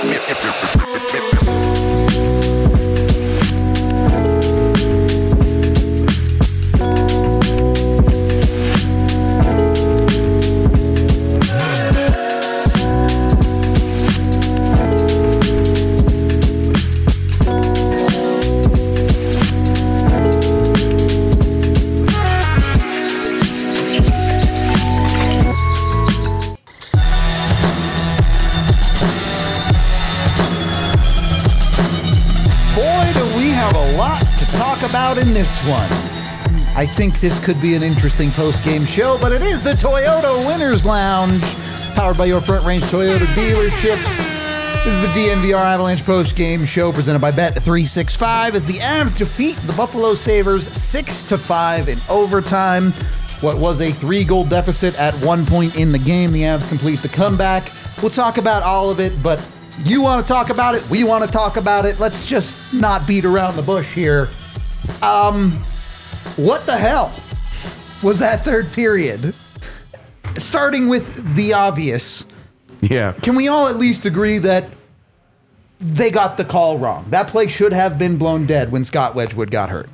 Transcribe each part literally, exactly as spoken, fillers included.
About in this one. I think this could be an interesting post-game show, but it is the Toyota Winners Lounge, powered by your Front Range Toyota dealerships. This is the D N V R Avalanche post-game show presented by Bet three sixty-five as the Avs defeat the Buffalo Sabres six to five in overtime. What was a three-goal deficit at one point in the game, the Avs complete the comeback. We'll talk about all of it, but you want to talk about it, we want to talk about it. Let's just not beat around the bush here. Um, what the hell was that third period? Starting with the obvious. Yeah. Can we all at least agree that they got the call wrong? That play should have been blown dead when Scott Wedgwood got hurt.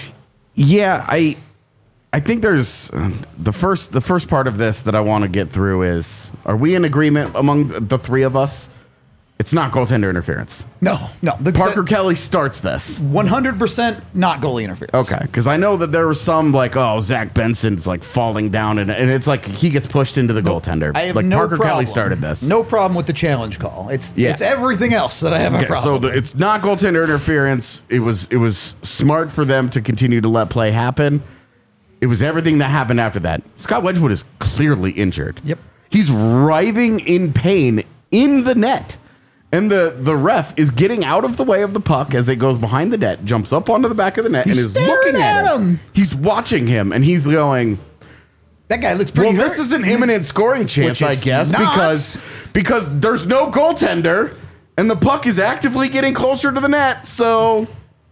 Yeah, I I think there's uh, the first the first part of this that I want to get through is, are we in agreement among the three of us? It's not goaltender interference. No, no. The, Parker the, Kelly starts this. one hundred percent not goalie interference. Okay, because I know that there was some like, oh, Zach Benson's like falling down, and, and it's like he gets pushed into the no, goaltender. I have like no Parker problem. Kelly started this. No problem with the challenge call. It's Yeah. it's everything else that I have a Okay, problem so the, with. it's not goaltender interference. It was it was smart for them to continue to let play happen. It was everything that happened after that. Scott Wedgwood is clearly injured. Yep. He's writhing in pain in the net. And the, the ref is getting out of the way of the puck as it goes behind the net, jumps up onto the back of the net, He's and is looking at at him. him. He's watching him, and he's going, that guy looks pretty well, hurt. this is an imminent scoring chance, Which I it's guess, not. because because there's no goaltender, and the puck is actively getting closer to the net, so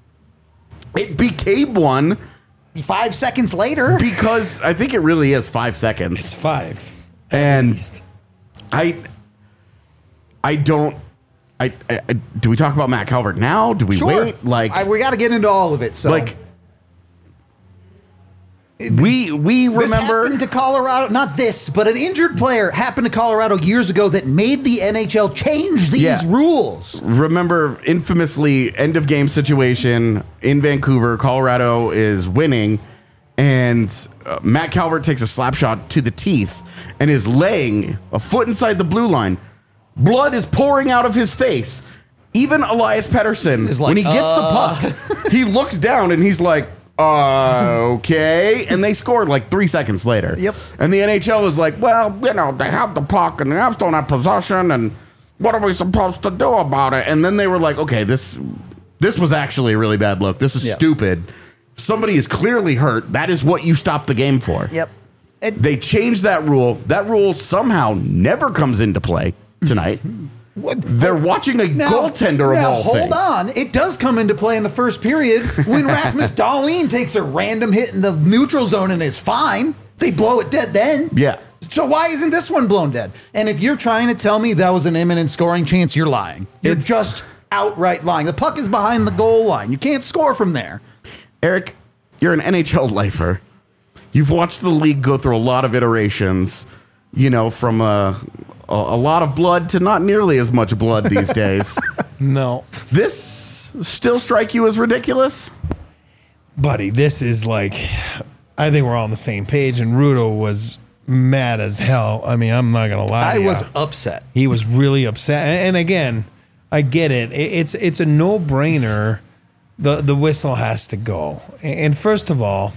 it became one. Five seconds later. Because I think it really is five seconds. It's five. And least. I I don't I, I, I do we talk about Matt Calvert now? Do we Sure. wait? Like I, we got to get into all of it. So like we we this remember happened to Colorado. Not this, but an injured player happened to Colorado years ago that made the N H L change these Yeah. rules. remember infamously end of game situation in Vancouver. Colorado is winning, and uh, Matt Calvert takes a slap shot to the teeth and is laying a foot inside the blue line. Blood is pouring out of his face. Even Elias Pettersson, Is like, when he gets uh. the puck, he looks down and he's like, uh, okay. And they scored like three seconds later. Yep. And the N H L was like, well, you know, they have the puck and the Avs don't have possession, and what are we supposed to do about it? And then they were like, okay, this this was actually a really bad look. This is Yep. stupid. Somebody is clearly hurt. That is what you stopped the game for. Yep. It, They changed that rule. That rule somehow never comes into play tonight. what, They're watching a now, goaltender of now, all hold things. on. It does come into play in the first period when Rasmus Dahlin takes a random hit in the neutral zone and is fine. They blow it dead then. Yeah. So why isn't this one blown dead? And if you're trying to tell me that was an imminent scoring chance, you're lying. You're It's- just outright lying. The puck is behind the goal line. You can't score from there. Eric, you're an N H L lifer. You've watched the league go through a lot of iterations, you know, from a, a, a lot of blood to not nearly as much blood these days. No, This still strike you as ridiculous? buddy, this is like, I think we're all on the same page, and Rudo was mad as hell. I mean, I'm not gonna lie. I to was ya. upset. He was really upset. And, and again, I get it. it. It's it's a no brainer. The the whistle has to go. And first of all,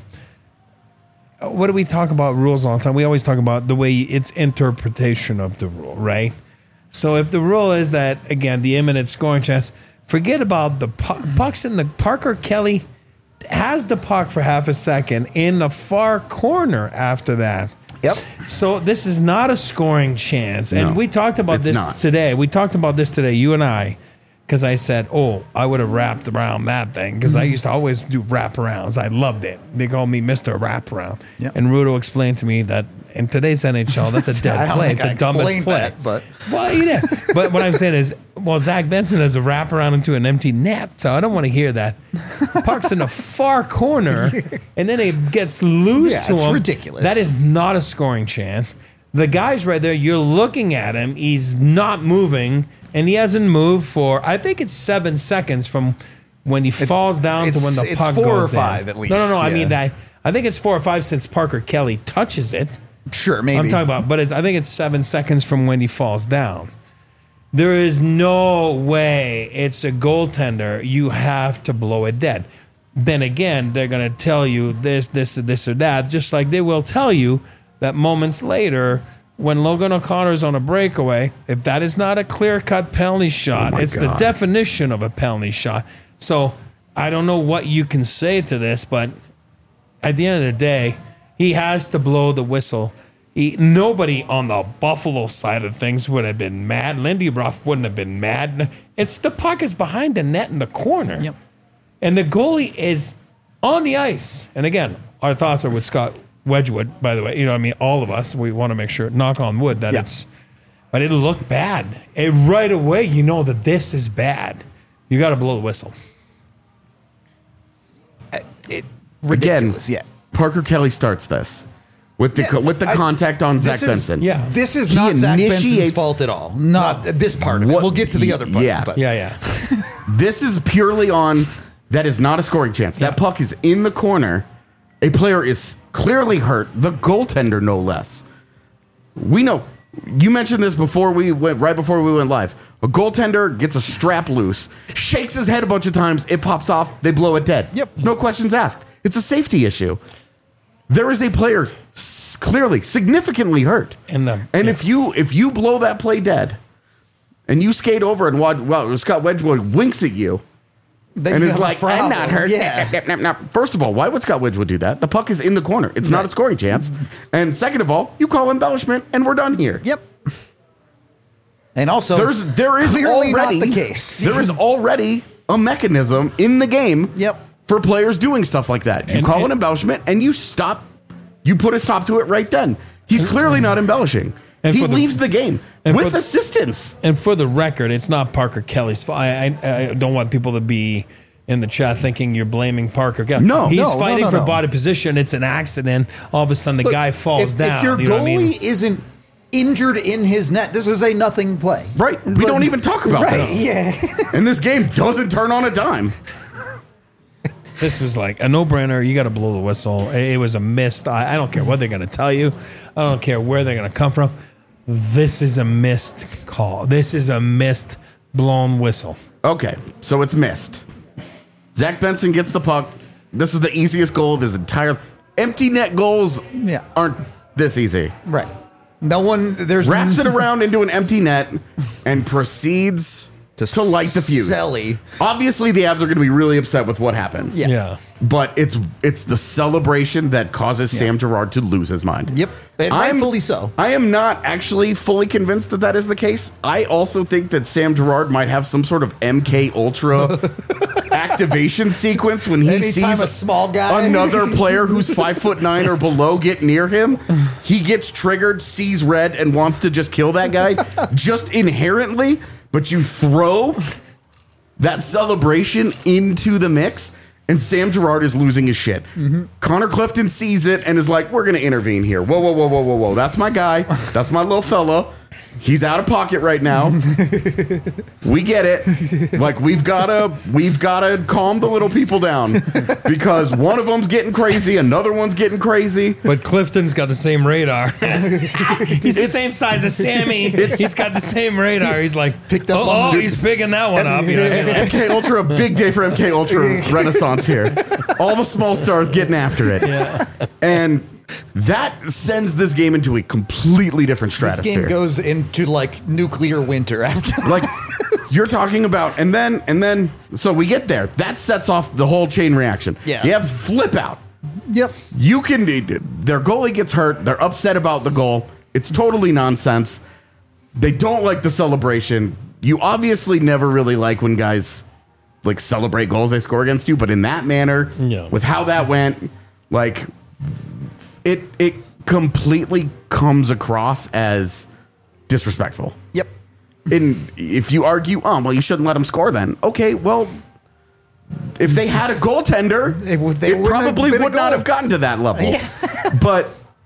what do we talk about rules all the time? We always talk about the way it's interpretation of the rule, right? So if the rule is that, again, the imminent scoring chance, forget about the puck, pucks in the Parker Kelly has the puck for half a second in the far corner after that. Yep. So this is not a scoring chance. And No, we talked about it's this not. today. We talked about this today, you and I, because I said, oh, I would have wrapped around that thing because I used to always do wraparounds. I loved it. They called me Mister Wraparound. Yep. And Rudo explained to me that in today's N H L, that's a I dead don't play. think It's I the dumbest explained play. that, but- Well, yeah. But what I'm saying is, Well, Zach Benson has a wraparound into an empty net, so I don't want to hear that. Parks in the far corner, and then it gets loose Yeah, to it's him. ridiculous. That is not a scoring chance. The guy's right there. You're looking at him. He's not moving, and he hasn't moved for, I think it's seven seconds from when he falls down to it's- when the it's puck four or goes five in. at No, no, no. least, I yeah. mean, that. I think it's four or five since Parker Kelly touches it. Sure, maybe. I'm talking about, but it's, I think it's seven seconds from when he falls down. There is no way it's a goaltender. You have to blow it dead. Then again, they're going to tell you this, this, this, or that, just like they will tell you that moments later, when Logan O'Connor's on a breakaway, if that is not a clear-cut penalty shot, Oh my it's the God. definition of a penalty shot. So I don't know what you can say to this, but at the end of the day, he has to blow the whistle. He, nobody on the Buffalo side of things would have been mad. Lindy Ruff wouldn't have been mad. It's the puck is behind the net in the corner. Yep. And the goalie is on the ice. And again, our thoughts are with Scott Wedgwood, by the way. You know, I mean, all of us, we want to make sure, knock on wood, that Yeah. it's, but it looked bad. And right away, you know that this is bad. You got to blow the whistle. It, Again, ridiculous, yeah. Parker Kelly starts this with the Yeah, co- with the I- contact on Zach This is- Benson. Yeah. This is He not Zach Benson's initiates- fault at all. Not this part of it. What- We'll get to the other part. yeah. But Yeah, yeah. This is purely on that is not a scoring chance. That Yeah. puck is in the corner. A player is clearly hurt. The goaltender, no less. We know. You mentioned this before we went right before we went live. A goaltender gets a strap loose, shakes his head a bunch of times, it pops off, they blow it dead. Yep. No questions asked. It's a safety issue. There is a player s- clearly significantly hurt. And the- and yeah. if you if you blow that play dead and you skate over and watch, well, Scott Wedgwood winks at you then and you is have a like, I'm problem. not hurt. Yeah. Now, first of all, why would Scott Wedgwood do that? The puck is in the corner. It's not a Right. scoring chance. And second of all, you call embellishment and we're done here. Yep. And also, There's there is clearly already not the case. There is already a mechanism in the game Yep. for players doing stuff like that. You And- call and- an embellishment and you stop you put a stop to it right then. He's clearly not embellishing. And He for the- leaves the game and for with the- assistance. And for the record, it's not Parker Kelly's fault. I, I, I don't want people to be in the chat thinking you're blaming Parker Kelly. No. he's No, no, fighting no, for no. body position. It's an accident. All of a sudden, the Look, guy falls if, down. If your you know what I goalie mean? isn't injured in his net, this is a nothing play. Right. We Like- don't even talk about right, this. Yeah. And this game doesn't turn on a dime. This was like a no-brainer. You got to blow the whistle. It, it was a missed. I, I don't care what they're going to tell you. I don't care where they're going to come from. This is a missed call. This is a missed blown whistle. Okay, so it's missed. Zach Benson gets the puck. This is the easiest goal of his entire empty net goals Yeah. aren't this easy. Right. No one. There's Wraps it around into an empty net and proceeds to, To light the fuse. Selly. Obviously, the Avs are going to be really upset with what happens. Yeah. Yeah. But it's it's the celebration that causes Sam Girard to lose his mind. Yep. And I'm- rightfully so. I am not actually fully convinced that that is the case. I also think that Sam Girard might have some sort of M K Ultra activation sequence when he Anytime sees a small guy- another player who's five foot nine or below get near him. He gets triggered, sees red, and wants to just kill that guy just inherently. But you throw that celebration into the mix, and Sam Girard is losing his shit. Mm-hmm. Connor Clifton sees it and is like, we're going to intervene here. Whoa, whoa, whoa, whoa, whoa, whoa. That's my guy. That's my little fella. He's out of pocket right now. We get it. Like, we've got to we've got to calm the little people down because one of them's getting crazy, another one's getting crazy. But Clifton's got the same radar. He's the same size as Sammy. He's got the same radar. He's like, Picked up oh, on oh, the- he's picking that one up. You know, M K Ultra, a big day for M K Ultra Renaissance here. All the small stars getting after it. Yeah. And that sends this game into a completely different This stratosphere. game goes into like nuclear winter after. Like you're talking about, and then and then so we get there. That sets off the whole chain reaction. Yeah. The Avs flip out. Yep. You can their goalie gets hurt. They're upset about the goal. It's totally nonsense. They don't like the celebration. You obviously never really like when guys like celebrate goals they score against you, but in that manner, Yeah. with how that went, like it it completely comes across as disrespectful. Yep. And if you argue, oh, well, you shouldn't let them score then. Okay, well, if they had a goaltender, It would- they it wouldn't have probably been a would not goal. have gotten to that level. Yeah. But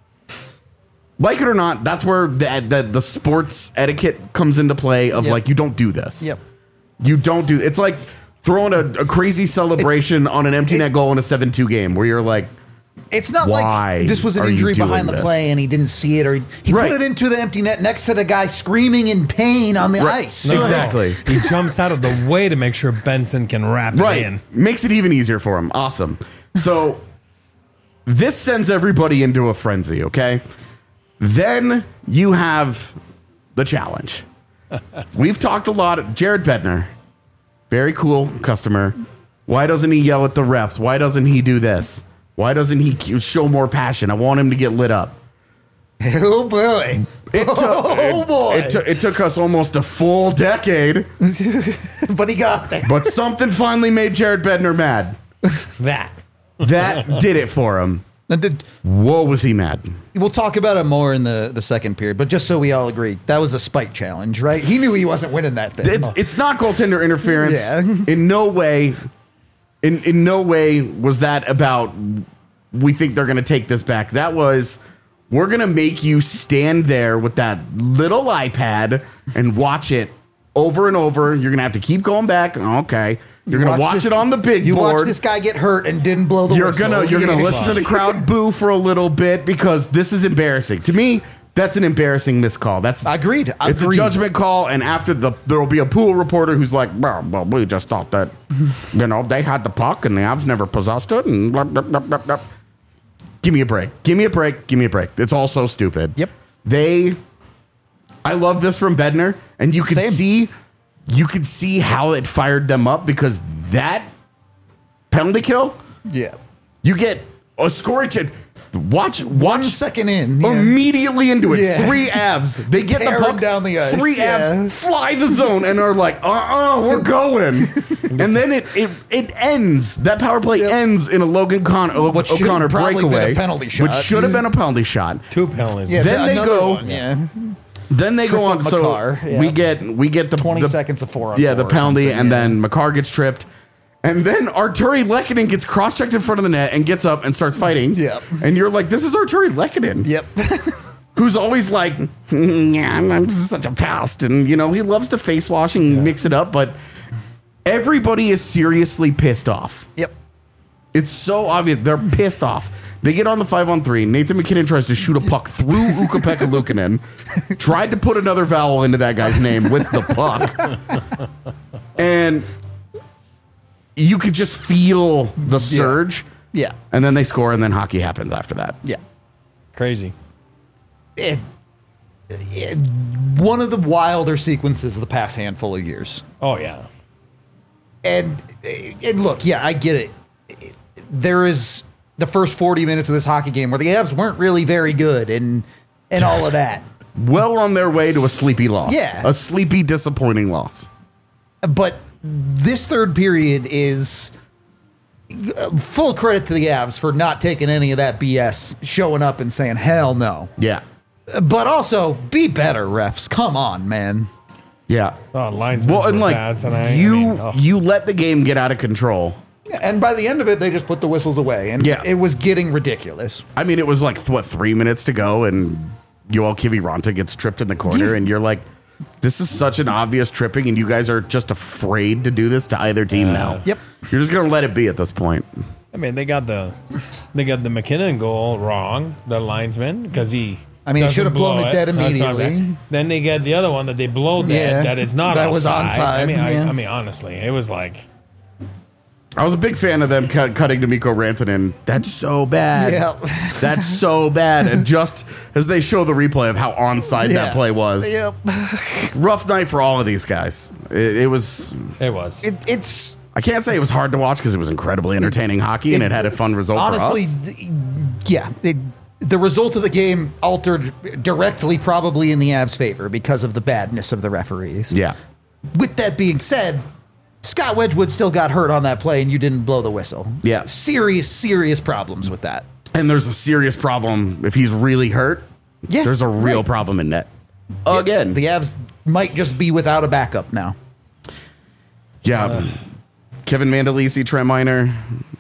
like it or not, that's where the, the, the sports etiquette comes into play of Yep. like, you don't do this. Yep. You don't do it's like throwing a, a crazy celebration on an empty it- net goal in a seven two game where you're like, It's not Why like this was an are you injury doing behind the this? play and he didn't see it, or he, he Right. put it into the empty net next to the guy screaming in pain on the Right. ice. No, Exactly. He jumps out of the way to make sure Benson can wrap right. it in. Makes it even easier for him. Awesome. So this sends everybody into a frenzy, okay? Then you have the challenge. We've talked a lot. Jared Bednar, very cool customer. Why doesn't he yell at the refs? Why doesn't he do this? Why doesn't he show more passion? I want him to get lit up. Oh boy! It took, Oh boy! It, took- it took us almost a full decade, But he got there. but something finally made Jared Bednar mad. That. That did it for him. And did- Whoa, was he mad? We'll talk about it more in the, the second period, but just so we all agree, that was a spike challenge, right? He knew he wasn't winning that thing. It's, it's not goaltender interference. Yeah. In no way, in in no way was that about. We think they're going to take this back. That was, we're going to make you stand there with that little iPad and watch it over and over. You're going to have to keep going back. Okay, you're going to watch this- it on the big You board. watch this guy get hurt and didn't blow the You're whistle. gonna you're gonna Yeah. listen to the crowd boo for a little bit because this is embarrassing. To me, that's an embarrassing miscall. That's Agreed. It's Agreed. a judgment call, and after the there will be a pool reporter who's like, well, well, we just thought that you know they had the puck and the Avs never possessed it, and blah, blah, blah, blah, blah. Give me a break. Give me a break. Give me a break. It's all so stupid. Yep. They. I love this from Bednar, and you can Same. see, you can see how it fired them up because that penalty kill. Yeah. You get a scoring chance. Watch, One watch second in. yeah. immediately into it. Yeah. Three abs. They get Tear the 'em puck down the ice, Three yeah. abs fly the zone and are like, uh, uh we're going. And then it it it ends. That power play Yep. ends in a Logan Con- o- What should've O'Connor probably been a breakaway, penalty which shot. should have been a penalty shot. Two penalties. Yeah, Then they another go- one, yeah. Then they Trip go on. of So Makar, yeah. we get we get the twenty the- seconds of four on Yeah, four the or penalty, something, and yeah. then Makar gets tripped. And then Arturi Lehkonen gets cross-checked in front of the net and gets up and starts fighting. Yep. And you're like, this is Arturi Lehkonen. Yep. Who's always like, "Mm, yeah, I'm, I'm such a pest. And, you know, he loves to face wash and mix it up. But everybody is seriously pissed off. Yep. It's so obvious. They're pissed off. They get on the five on three. Nathan McKinnon tries to shoot a puck through Ukko-Pekka Luukkonen. Tried to put another vowel into that guy's name with the puck. And you could just feel the surge. Yeah. And then they score, and then hockey happens after that. Yeah. Crazy. It, it, one of the wilder sequences of the past handful of years. Oh, yeah. And and look, yeah, I get it. There is the first forty minutes of this hockey game where the Avs weren't really very good and and all of that. Well on their way to a sleepy loss. Yeah. A sleepy, disappointing loss. But this third period is uh, full credit to the Avs for not taking any of that B S, showing up and saying, hell no. Yeah. But also, be better, refs. Come on, man. Yeah. Oh, linesmen Well, and were like bad tonight. you, I mean, oh. you let the game get out of control. And by the end of it, they just put the whistles away. And Yeah. it was getting ridiculous. I mean, it was like what three minutes to go, and Yoel Kiviranta gets tripped in the corner, Yeah. and you're like, "This is such an obvious tripping, and you guys are just afraid to do this to either team now." Yep. You're just gonna let it be at this point. I mean, they got the they got the McKinnon goal wrong, the linesman, because he. I mean, he doesn't should have blown blow it dead That's what I'm immediately. saying. Then they get the other one that they blow dead. Yeah, that it's not. that was offside. I onside, mean, I, yeah. I mean, honestly, it was like. I was a big fan of them cut, cutting to Mikko Rantanen. That's so bad. Yeah. That's so bad. And just as they show the replay of how onside Yeah. that play was, Yep. rough night for all of these guys. It, it was. It was. It, it's I can't say it was hard to watch because it was incredibly entertaining hockey and it had a fun result honestly, for us. th- yeah. It, the result of the game altered directly, probably in the Avs' favor because of the badness of the referees. Yeah. With that being said, Scott Wedgwood still got hurt on that play, and you didn't blow the whistle. Yeah. Serious, serious problems with that. And there's a serious problem if he's really hurt. Yeah, There's a real right. problem in net. Again. The Avs might just be without a backup now. Yeah. Uh, Kevin Mandolisi, Trent Miner.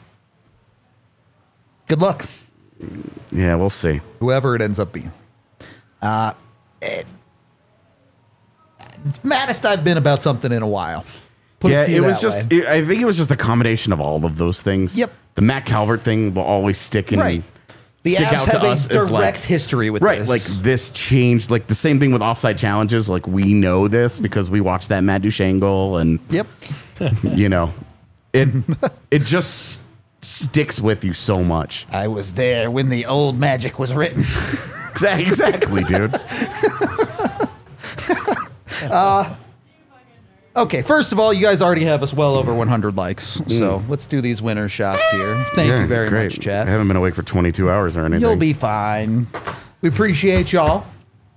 Good luck. Yeah, we'll see. Whoever it ends up being. Uh, it, maddest I've been about something in a while. Put yeah, it, it was just, it, I think it was just a combination of all of those things. Yep. The Matt Calvert thing will always stick in. Right. The stick Avs out to have us a direct like, history with right, this. like this changed, like the same thing with offside challenges. Like we know this because we watched that Matt Duchene goal, and yep, you know, it it just sticks with you so much. I was there when the old magic was written. Exactly, exactly, dude. uh, okay, first of all, you guys already have us well over one hundred likes, mm. so let's do these winner shots here. Thank yeah, you very great. much, chat. I haven't been awake for twenty-two hours or anything. You'll be fine. We appreciate y'all.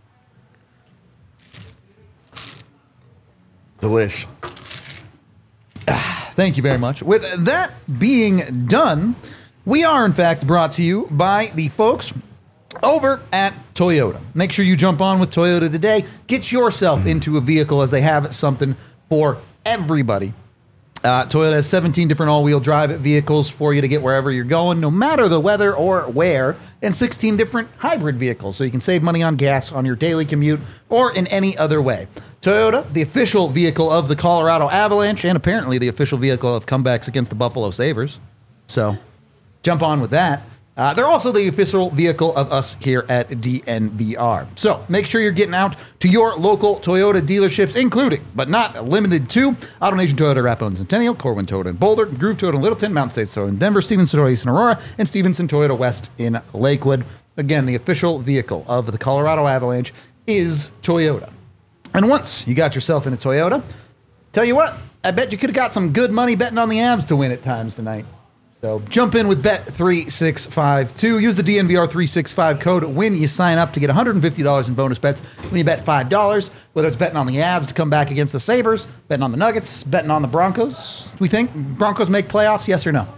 Delish. Thank you very much. With that being done, we are in fact brought to you by the folks over at Toyota. Make sure you jump on with Toyota today. Get yourself into a vehicle, as they have something for everybody. Uh, Toyota has seventeen different all-wheel drive vehicles for you to get wherever you're going, no matter the weather or where, and sixteen different hybrid vehicles, so you can save money on gas on your daily commute or in any other way. Toyota, the official vehicle of the Colorado Avalanche, and apparently the official vehicle of comebacks against the Buffalo Sabres. So jump on with that. Uh, they're also the official vehicle of us here at D N V R. So make sure you're getting out to your local Toyota dealerships, including, but not limited to, AutoNation Toyota, Rapo and Centennial, Corwin Toyota in Boulder, Groove Toyota in Littleton, Mountain State Toyota in Denver, Stevenson Toyota East in Aurora, and Stevenson Toyota West in Lakewood. Again, the official vehicle of the Colorado Avalanche is Toyota. And once you got yourself in a Toyota, tell you what, I bet you could have got some good money betting on the Avs to win at times tonight. So jump in with Bet three six five two. Use the D N V R three sixty-five code when you sign up to get one hundred fifty dollars in bonus bets when you bet five dollars, whether it's betting on the Avs to come back against the Sabres, betting on the Nuggets, betting on the Broncos. Do we think Broncos make playoffs, yes or no?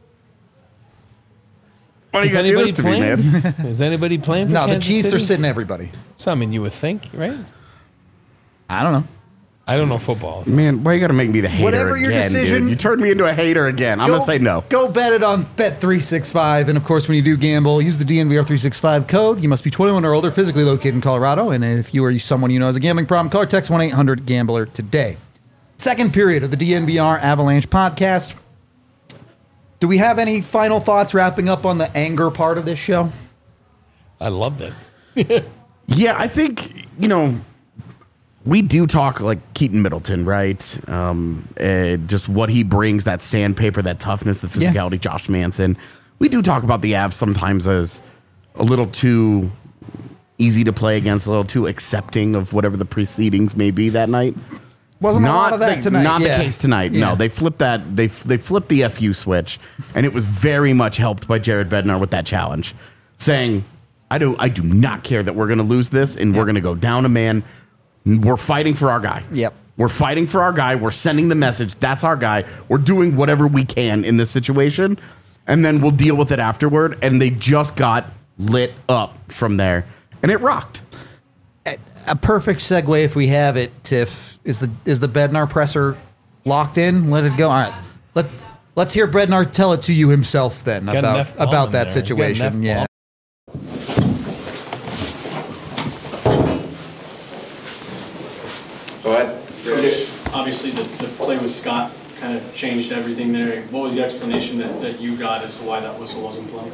Well, Is anybody playing? Me, Is anybody playing for No, Kansas the Chiefs City? are sitting everybody. So, I mean, you would think, right? I don't know. I don't know football. So. Man, why you got to make me the hater Whatever again, your decision, dude? You turned me into a hater again. I'm going to say no. Go bet it on Bet three sixty-five. And, of course, when you do gamble, use the D N V R three sixty-five code. You must be twenty-one or older, physically located in Colorado. And if you or someone you know has a gambling problem, call or text one eight hundred gambler today. Second period of the D N V R Avalanche podcast. Do we have any final thoughts wrapping up on the anger part of this show? I loved it. Yeah, I think, you know, we do talk like Keaton Middleton, right? Um, uh, just what he brings, that sandpaper, that toughness, the physicality, yeah. Josh Manson. We do talk about the Avs sometimes as a little too easy to play against, a little too accepting of whatever the proceedings may be that night. Wasn't not a lot of that the, tonight. Not yeah. the case tonight. Yeah. No, they flipped that. They they flipped the F U switch, and it was very much helped by Jared Bednar with that challenge, saying, "I do I do not care that we're going to lose this, and yep. we're going to go down a man. We're fighting for our guy. Yep, we're fighting for our guy. We're sending the message. That's our guy. We're doing whatever we can in this situation, and then we'll deal with it afterward." And they just got lit up from there, and it rocked. A, a perfect segue, if we have it, Tiff. Is the is the Bednar presser locked in? Let it go. All right. Let let's hear Bednar tell it to you himself then Got about about that there. situation. Yeah. Go ahead. Coach, obviously the, the play with Scott kind of changed everything there. What was the explanation that, that you got as to why that whistle wasn't blown?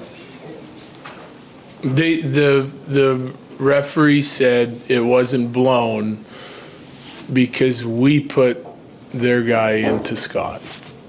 They, the the referee said it wasn't blown because we put their guy into Scott.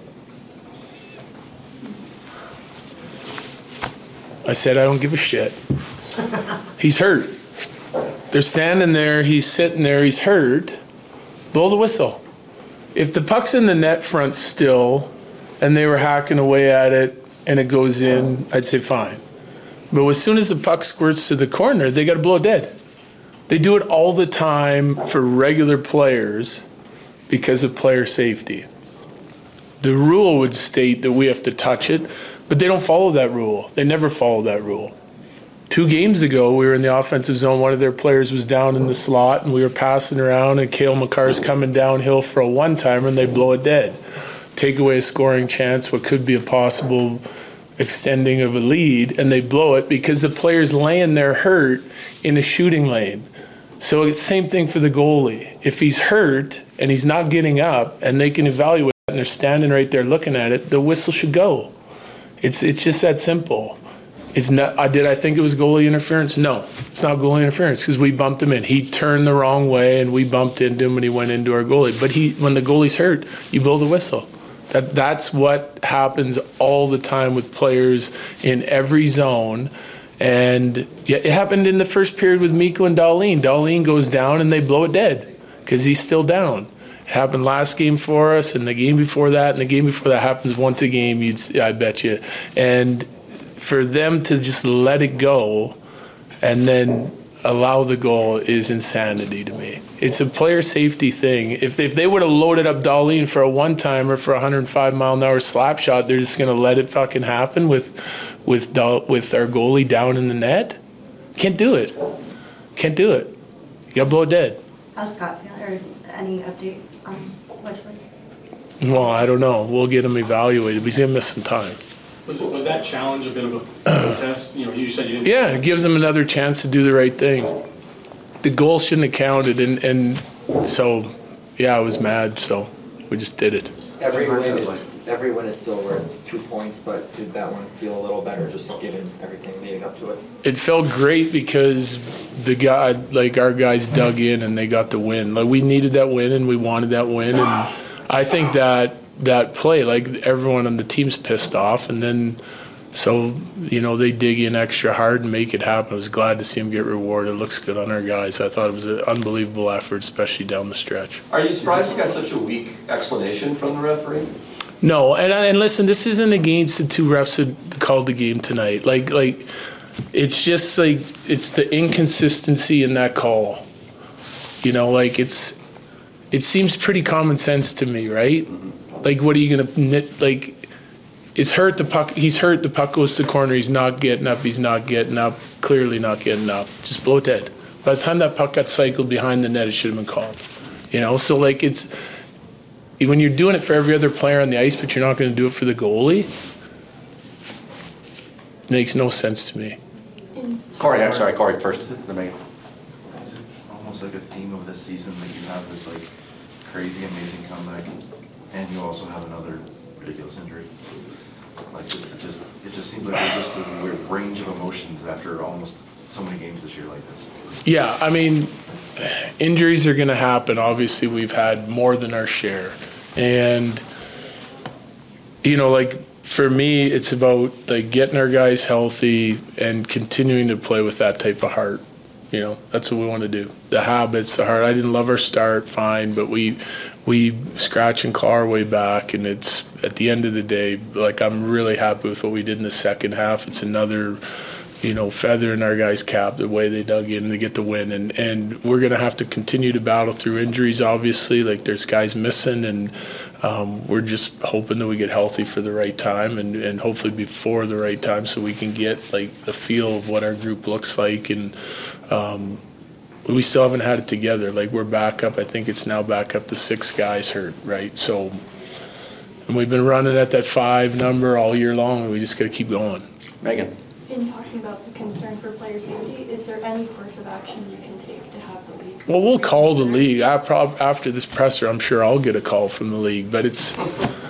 I said, I don't give a shit. He's hurt. They're standing there, he's sitting there, he's hurt. Blow the whistle. If the puck's in the net front still and they were hacking away at it and it goes in, I'd say fine. But as soon as the puck squirts to the corner, they got to blow it dead. They do it all the time for regular players because of player safety. The rule would state that we have to touch it, but they don't follow that rule. They never follow that rule. Two games ago, we were in the offensive zone. One of their players was down in the slot, and we were passing around, and Cale Makar's coming downhill for a one-timer, and they blow it dead. Take away a scoring chance, what could be a possible extending of a lead, and they blow it because the player's laying there hurt in a shooting lane. So it's the same thing for the goalie. If he's hurt and he's not getting up, and they can evaluate it, and they're standing right there looking at it, the whistle should go. It's it's just that simple. It's not. I did. I think it was goalie interference. No, it's not goalie interference because we bumped him in. He turned the wrong way, and we bumped into him when he went into our goalie. But he, when the goalie's hurt, you blow the whistle. That that's what happens all the time with players in every zone. And yeah, it happened in the first period with Mikko and Darlene. Darlene goes down, and they blow it dead because he's still down. It happened last game for us, and the game before that, and the game before that happens once a game. You'd, I bet you, and. For them to just let it go and then allow the goal is insanity to me. It's a player safety thing. If if they would have loaded up Darlene for a one-timer for a one hundred five mile an hour slap shot, they're just going to let it fucking happen with with with our goalie down in the net? Can't do it. Can't do it. You got to blow it dead. How's Scott feeling? Or any update on Wedgwood? Well, I don't know. We'll get him evaluated. He's going to miss some time. Was, was that challenge a bit of a test? You know, you said you didn't. Yeah, it gives them another chance to do the right thing. The goal shouldn't have counted, and, and so, yeah, I was mad, so we just did it. Every win is every win is still worth two points, but did that one feel a little better, just given everything leading up to it? It felt great because the guy, like our guys, dug in and they got the win. Like we needed that win, and we wanted that win, and I think that. that play, like everyone on the team's pissed off, and then so you know they dig in extra hard and make it happen. I was glad to see him get rewarded. It looks good on our guys. I thought it was an unbelievable effort, especially down the stretch. Are you surprised you got such a weak explanation from the referee? No, and and listen, this isn't against the two refs that called the game tonight. Like like it's just like it's the inconsistency in that call. You know, like it's it seems pretty common sense to me, right? Like, what are you going to knit? Like, it's hurt the puck. He's hurt. The puck goes to the corner. He's not getting up. He's not getting up. Clearly not getting up. Just blow it dead. By the time that puck got cycled behind the net, it should have been called. You know, so, like, it's when you're doing it for every other player on the ice, but you're not going to do it for the goalie, it makes no sense to me. Corey, I'm sorry, Corey first. The main. Is it almost like a theme of this season that you have this, like, crazy, amazing comeback? And you also have another ridiculous injury. Like just, it just, it just seems like there's just a weird range of emotions after almost so many games this year like this. Yeah, I mean, injuries are going to happen. Obviously, we've had more than our share, and you know, like for me, it's about like getting our guys healthy and continuing to play with that type of heart. You know, that's what we want to do. The habits, the heart. I didn't love our start, fine, but we. We scratch and claw our way back, and it's at the end of the day, like I'm really happy with what we did in the second half. It's another, you know, feather in our guys' cap, the way they dug in to get the win. And, and we're going to have to continue to battle through injuries, obviously. Like there's guys missing, and um, we're just hoping that we get healthy for the right time and, and hopefully before the right time so we can get like the feel of what our group looks like. And um, we still haven't had it together. Like we're back up. I think it's now back up to six guys hurt, right? So, and we've been running at that five number all year long, and we just got to keep going. Megan. In talking about the concern for player safety, is there any course of action you can take to have the league? Well, we'll call the league. I prob- after this presser, I'm sure I'll get a call from the league. But it's,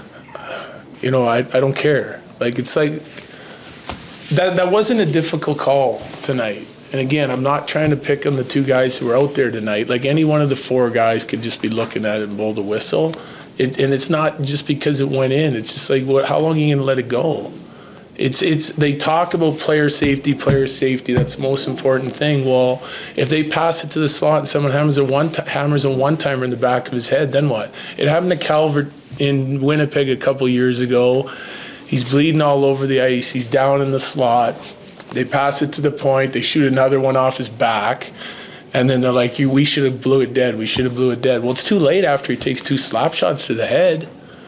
you know, I I don't care. Like it's like that. That wasn't a difficult call tonight. And again, I'm not trying to pick on the two guys who were out there tonight. Like any one of the four guys could just be looking at it and blow the whistle. It, and it's not just because it went in. It's just like, what? How long are you going to let it go? It's it's. They talk about player safety, player safety. That's the most important thing. Well, if they pass it to the slot and someone hammers a one t- hammers a one timer in the back of his head, then what? It happened to Calvert in Winnipeg a couple years ago. He's bleeding all over the ice. He's down in the slot. They pass it to the point. They shoot another one off his back, and then they're like, "You, we should have blew it dead. We should have blew it dead." Well, it's too late after he takes two slap shots to the head.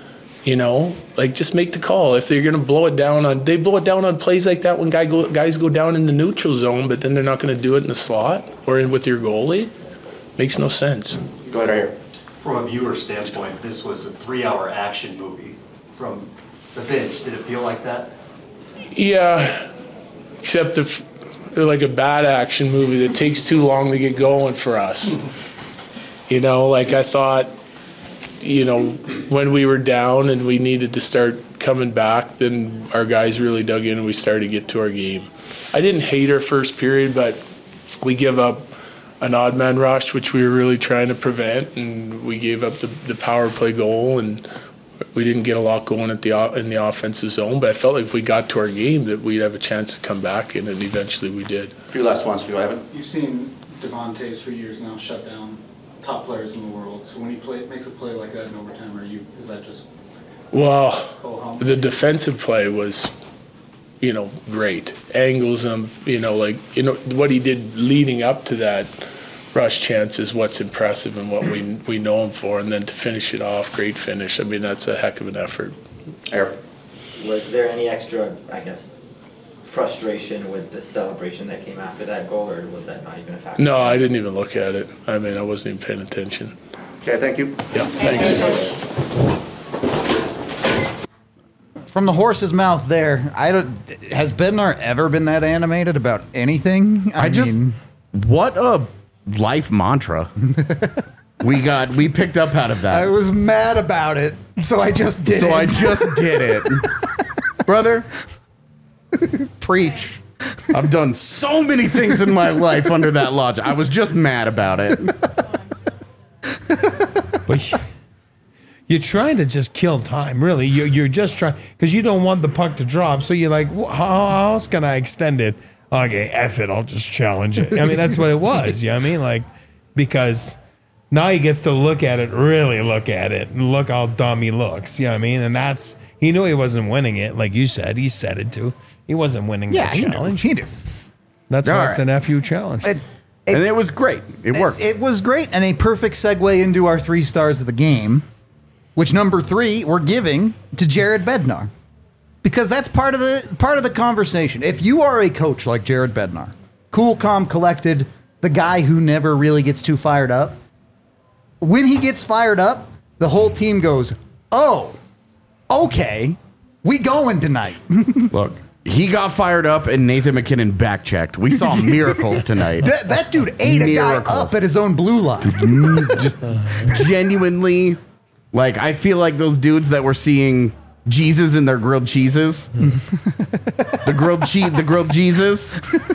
You know, like just make the call. If they're going to blow it down on, they blow it down on plays like that when guy go, guys go down in the neutral zone, but then they're not going to do it in the slot or in with your goalie. Makes no sense. Go ahead right here. From a viewer standpoint, this was a three-hour action movie. From the bench, did it feel like that? Yeah, except if they're like a bad action movie that takes too long to get going for us. You know, like I thought, you know, when we were down and we needed to start coming back, then our guys really dug in and we started to get to our game. I didn't hate our first period, but we give up an odd man rush, which we were really trying to prevent, and we gave up the, the power play goal, and we didn't get a lot going at the in the offensive zone. But I felt like if we got to our game, that we'd have a chance to come back, and then eventually we did. A few last ones for you, Evan. You've seen Devontae's for years now shut down top players in the world. So when he play, makes a play like that in overtime, are you is that just well, the defensive play was, you know, great. Angles him, you know, like, you know, what he did leading up to that rush chance is what's impressive and what we we know him for. And then to finish it off, great finish. I mean, that's a heck of an effort. Eric. Was there any extra, I guess, frustration with the celebration that came after that goal, or was that not even a factor? No, I didn't even look at it. I mean, I wasn't even paying attention. Okay, thank you. Yeah, thanks. From the horse's mouth there, I don't. Has Bednar ever been that animated about anything? I, I just mean, what a life mantra we got. We picked up out of that. I was mad about it, so I just did. So it. I just did it, brother. Preach. I've done so many things in my life under that logic. I was just mad about it. But you're trying to just kill time, really. You're, you're just trying, because you don't want the puck to drop. So you're like, how, how else can I extend it? Okay, F it, I'll just challenge it. I mean, that's what it was. You know what I mean? Like, because now he gets to look at it, really look at it, and look how dumb he looks. You know what I mean? And that's, he knew he wasn't winning it. Like you said, he said it too. He wasn't winning yeah, the challenge. He knew. That's All why right. it's an F U challenge. It, it, and it was great. It worked. It, it was great, and a perfect segue into our three stars of the game, which number three we're giving to Jared Bednar, because that's part of the part of the conversation. If you are a coach like Jared Bednar, cool, calm, collected, the guy who never really gets too fired up, when he gets fired up, the whole team goes, "Oh, okay, we going tonight." Look. He got fired up and Nathan McKinnon back-checked. We saw miracles tonight. That, that dude ate miracles. a guy up at his own blue line. Just genuinely, like, I feel like those dudes that were seeing Jesus in their grilled cheeses. the grilled cheese, the grilled Jesus.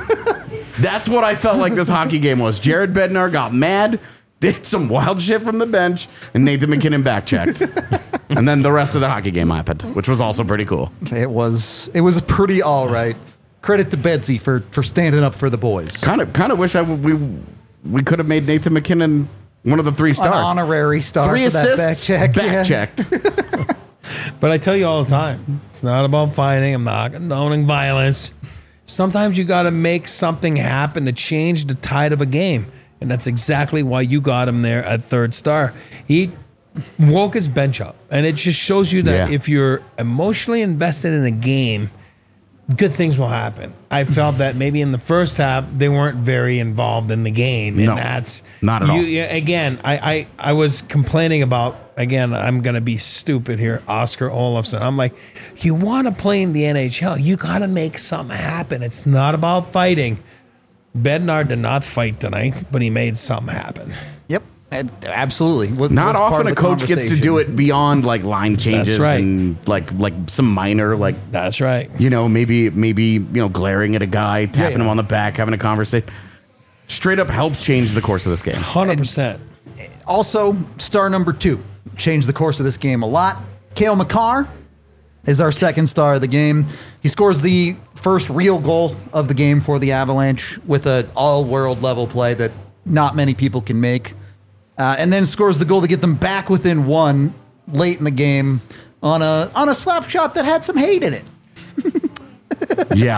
That's what I felt like this hockey game was. Jared Bednar got mad, did some wild shit from the bench, and Nathan McKinnon back-checked. And then the rest of the hockey game happened, which was also pretty cool. It was it was pretty all right. Credit to Bedsy for for standing up for the boys. Kind of kind of wish I w- we we could have made Nathan McKinnon one of the three stars, an honorary star. Three for assists, that back check. back yeah. checked. But I tell you all the time, it's not about fighting. I'm not condoning violence. Sometimes you got to make something happen to change the tide of a game, and that's exactly why you got him there at third star. He woke his bench up, and it just shows you that Yeah. if you're emotionally invested in a game, good things will happen. I felt that maybe in the first half they weren't very involved in the game, and No, that's not at you, all. yeah, again, I, I I was complaining about again. I'm gonna be stupid here, Oscar Olofsson. I'm like, you want to play in the N H L, you got to make something happen. It's not about fighting. Bednar did not fight tonight, but he made something happen. Yep, absolutely. Was, Not was part often of a the coach gets to conversation. do it beyond like line changes That's right. and like like some minor like That's right. you know maybe maybe you know glaring at a guy, tapping yeah. him on the back, having a conversation. Straight up helps change the course of this game. one hundred percent. Also, star number two changed the course of this game a lot. Cale Makar is our second star of the game. He scores the first real goal of the game for the Avalanche with an all-world level play that not many people can make. Uh, and then scores the goal to get them back within one late in the game on a on a slap shot that had some hate in it. Yeah.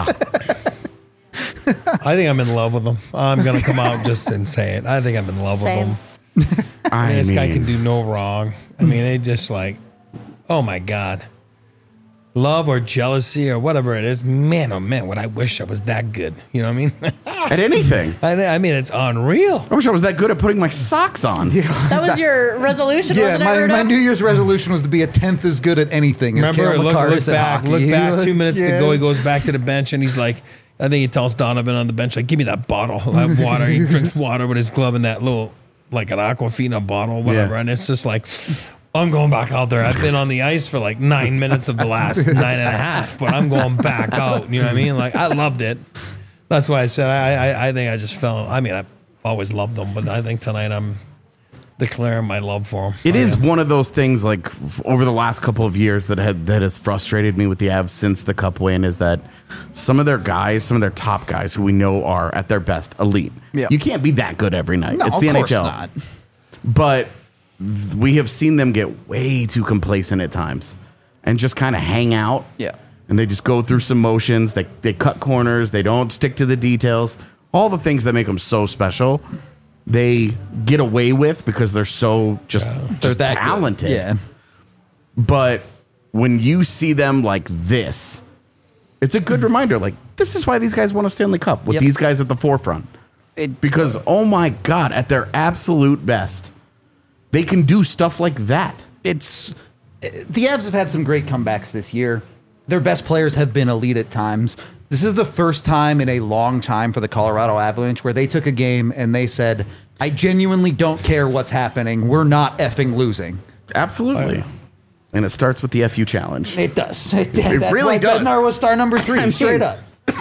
I think I'm in love with him. I'm gonna come out just and say it. I think I'm in love Same. with him. I I mean, this guy mean- can do no wrong. I mean, it just like Oh my God. Love or jealousy or whatever it is, man, oh man, what I wish I was that good. You know what I mean? At anything. I, I mean, it's unreal. I wish I was that good at putting my socks on. Yeah, That was your resolution, Yeah, wasn't my, it, my Rudo? New Year's resolution was to be a tenth as good at anything as Remember, Cale look, Makar look is at back, hockey. look back, two minutes Yeah. to go. He goes back to the bench and he's like, I think he tells Donovan on the bench, like, give me that bottle, that water. He drinks water with his glove in that little, like an Aquafina bottle, whatever. Yeah. And it's just like, I'm going back out there. I've been on the ice for like nine minutes of the last nine and a half, but I'm going back out. You know what I mean? Like, I loved it. That's why I said I, I, I think I just fell. I mean, I've always loved them, but I think tonight I'm declaring my love for them. It is one of those things, like f- over the last couple of years, that had that has frustrated me with the Avs since the Cup win, is that some of their guys, some of their top guys, who we know are at their best, elite. Yeah. You can't be that good every night. No, it's of the course N H L. not. But th- we have seen them get way too complacent at times and just kind of hang out. Yeah. And they just go through some motions. They they cut corners. They don't stick to the details. All the things that make them so special, they get away with because they're so just, They're just that good. talented. Yeah. But when you see them like this, it's a good reminder. Like, this is why these guys won a Stanley Cup with Yep. these guys at the forefront. It- Because, oh my God, at their absolute best, they can do stuff like that. It's the Avs have had some great comebacks this year. Their best players have been elite at times. This is the first time in a long time for the Colorado Avalanche where they took a game and they said, I genuinely don't care what's happening. We're not effing losing. Absolutely. And it starts with the F U challenge. It does. It, It that's really why does. Bednar was star number three, I mean- straight up.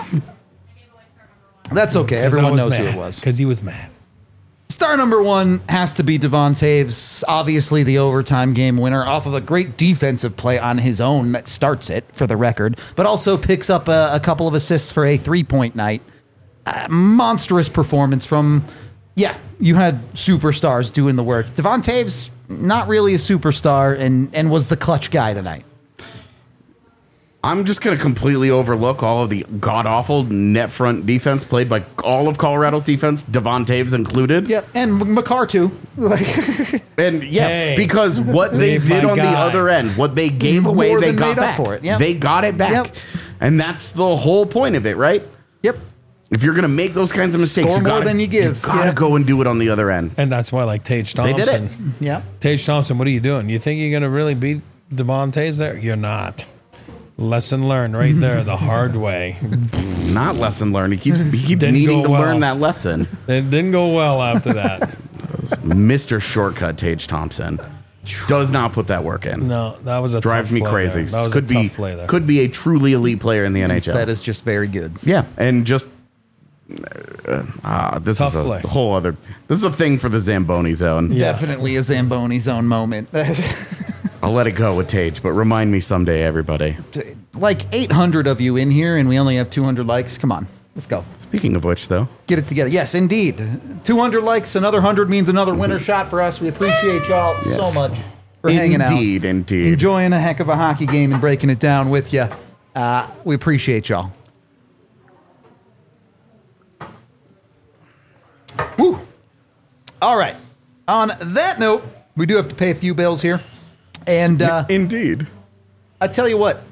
That's okay. Everyone knows who it was. Because he was mad. Star number one has to be Devon Taves, obviously the overtime game winner, off of a great defensive play on his own that starts it, for the record, but also picks up a, a couple of assists for a three-point night. Uh, monstrous performance from, yeah, you had superstars doing the work. Devon Taves, not really a superstar, and, and was the clutch guy tonight. I'm just going to completely overlook all of the god-awful net front defense played by all of Colorado's defense, Devon Taves included. Yep, and Makar too. And yeah, Hey, because what they leave did my on the guy. other end, what they gave away, More they than got made up back. for it, yeah. They got it back. Yep. And that's the whole point of it, right? Yep. If you're going to make those kinds of mistakes, Score you more gotta, than you give. gotta Yeah. go and do it on the other end. And that's why, like, Tage They Thompson. did it. Yeah. Tage Thompson, what are you doing? You think you're going to really beat Devon Taves there? You're not. Lesson learned right there, the hard way. Not lesson learned. He keeps he keeps Didn't needing go to well. learn that lesson. It didn't go well after that. Mister Shortcut Tage Thompson does not put that work in. No, that was a Drives tough me play crazy. there. That was Could a be tough play there. could be a truly elite player in the N H L. That is just very good. Yeah, and just uh, uh, this Tough is a play. whole other. This is a thing for the Zamboni zone. Yeah. Definitely a Zamboni zone moment. I'll let it go with Tage, but remind me someday, everybody. Like eight hundred of you in here, and we only have two hundred likes. Come on, let's go. Speaking of which, though, Get it together. Yes, indeed. two hundred likes, another one hundred means another winner shot for us. We appreciate y'all Yes. so much for hanging out. Indeed, indeed. Enjoying a heck of a hockey game and breaking it down with you. Uh, we appreciate y'all. Woo. All right. On that note, we do have to pay a few bills here. And uh, indeed. I tell you what,